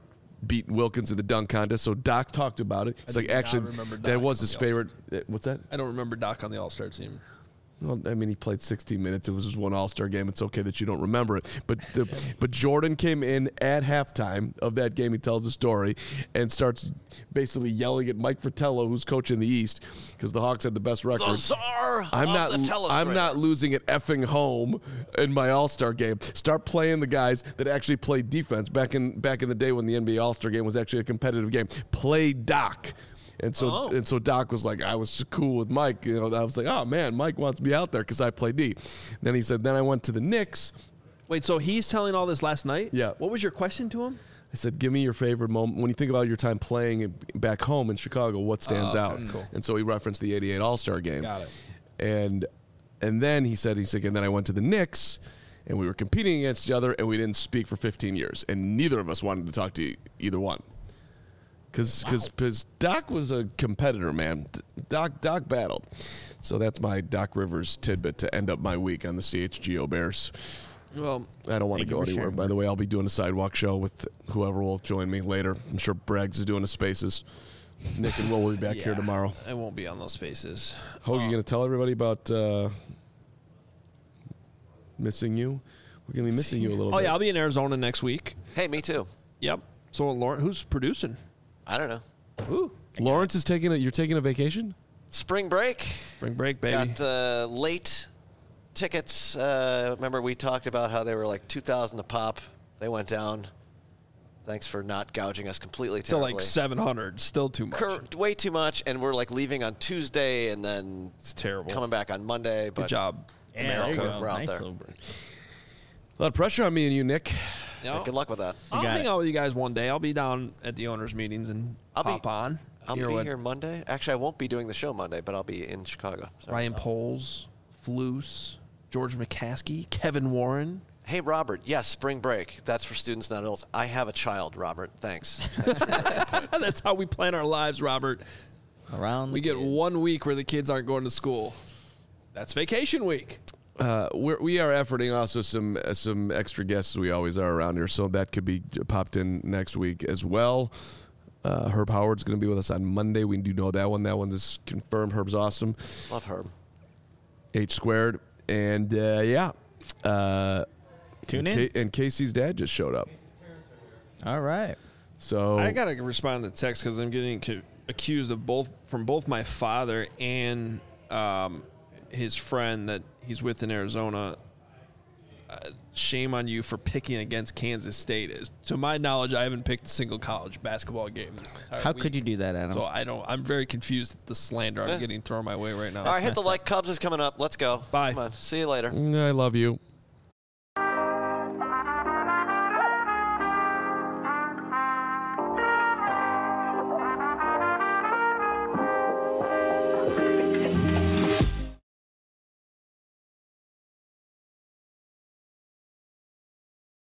Speaker 2: beat Wilkins in the dunk contest. So Doc talked about it. He's
Speaker 1: I
Speaker 2: like,
Speaker 1: do not
Speaker 2: actually,
Speaker 1: remember
Speaker 2: that
Speaker 1: Doc
Speaker 2: was
Speaker 1: on
Speaker 2: his
Speaker 1: the
Speaker 2: favorite. uh, What's that?
Speaker 1: I don't remember Doc on the All-Star team.
Speaker 2: Well, I mean, he played sixteen minutes. It was just one All-Star game. It's okay that you don't remember it. But the, but Jordan came in at halftime of that game. He tells the story and starts basically yelling at Mike Fratello, who's coaching the East, because the Hawks had the best record.
Speaker 4: The czar
Speaker 2: I'm
Speaker 4: of
Speaker 2: not.
Speaker 4: the telestrator.
Speaker 2: I'm not losing at effing home in my All-Star game. Start playing the guys that actually played defense back in back in the day when the N B A All-Star game was actually a competitive game. Play Doc. And so
Speaker 1: Oh.
Speaker 2: and so Doc was like, I was just cool with Mike. You know, I was like, oh man, Mike wants me out there because I play D. Then he said, then I went to the Knicks.
Speaker 1: Wait, so he's telling all this last night?
Speaker 2: Yeah.
Speaker 1: What was your question to him?
Speaker 2: I said, give me your favorite moment when you think about your time playing back home in Chicago. What stands
Speaker 1: Oh,
Speaker 2: out?
Speaker 1: okay, cool.
Speaker 2: And so he referenced the eighty-eight All-Star game.
Speaker 1: Got it.
Speaker 2: And and then he said, he's like, and then I went to the Knicks, and we were competing against each other, and we didn't speak for fifteen years, and neither of us wanted to talk to e- either one. Because because Doc was a competitor, man. Doc Doc battled. So that's my Doc Rivers tidbit to end up my week on the C H G O Bears.
Speaker 1: Well,
Speaker 2: I don't want to
Speaker 3: Thank
Speaker 2: go
Speaker 3: you for
Speaker 2: anywhere.
Speaker 3: sharing.
Speaker 2: By the way, I'll be doing a sidewalk show with whoever will join me later. I'm sure Braggs is doing a Spaces. Nick and Will will be back here
Speaker 1: yeah,
Speaker 2: tomorrow.
Speaker 1: I won't be on those spaces.
Speaker 2: Hogue, you going to tell everybody about uh, missing you? We're going to be missing you a little
Speaker 1: Oh,
Speaker 2: bit.
Speaker 1: yeah, I'll be in Arizona next week.
Speaker 4: Hey, me too.
Speaker 1: Yep. So, Lauren, who's producing?
Speaker 4: I don't know.
Speaker 1: Ooh.
Speaker 2: Lawrence is taking a, you're taking a vacation?
Speaker 4: Spring break.
Speaker 1: Spring break, baby.
Speaker 4: Got uh, late tickets. Uh, remember we talked about how they were like two thousand a pop. They went down. Thanks for not gouging us completely.
Speaker 1: Still
Speaker 4: terribly.
Speaker 1: like seven hundred. Still too much.
Speaker 4: Cur- way too much, and we're like leaving on Tuesday and then
Speaker 1: It's terrible.
Speaker 4: coming back on Monday. But
Speaker 1: Good job.
Speaker 3: Yeah, there you
Speaker 4: America,
Speaker 3: go.
Speaker 4: we're out
Speaker 3: Nice
Speaker 4: there.
Speaker 3: little break.
Speaker 2: A lot of pressure on me and you, Nick.
Speaker 1: Yeah,
Speaker 4: Good luck with that.
Speaker 1: I'll
Speaker 3: got
Speaker 1: hang
Speaker 3: it.
Speaker 1: out with you guys one day. I'll be down at the owners' meetings and
Speaker 4: I'll be-
Speaker 1: pop on.
Speaker 4: I'll
Speaker 1: Hear
Speaker 4: be
Speaker 1: what
Speaker 4: here Monday. Actually, I won't be doing the show Monday, but I'll be in Chicago. So.
Speaker 1: Ryan Poles, Floose, George McCaskey, Kevin Warren.
Speaker 4: Hey, Robert. Yes, spring break. That's for students, not adults. I have a child, Robert. Thanks.
Speaker 1: That's how we plan our lives, Robert.
Speaker 3: Around
Speaker 1: We
Speaker 3: the
Speaker 1: get one week where the kids aren't going to school. That's vacation week.
Speaker 2: Uh, we're, we are efforting also some uh, some extra guests as we always are around here, so that could be popped in next week as well. Uh, Herb Howard's going to be with us on Monday. We do know that one. That one is confirmed. Herb's awesome.
Speaker 4: Love Herb.
Speaker 2: H squared. And, uh, yeah. Uh,
Speaker 3: Tune
Speaker 2: and
Speaker 3: in.
Speaker 2: Ca- and Casey's dad just showed up.
Speaker 3: All right.
Speaker 2: So
Speaker 1: I gotta respond to text because I'm getting cu- accused of both from both my father and um, his friend that he's with in Arizona. Uh, shame on you for picking against Kansas State. Is to my knowledge, I haven't picked a single college basketball game. this entire
Speaker 3: How
Speaker 1: week.
Speaker 3: could you do that, Adam?
Speaker 1: So I don't. I'm very confused at the slander I'm
Speaker 4: Eh.
Speaker 1: getting thrown my way right now.
Speaker 4: All right, hit the like. Cubs is coming up. Let's go.
Speaker 1: Bye.
Speaker 4: Come on. See you later.
Speaker 2: I love you.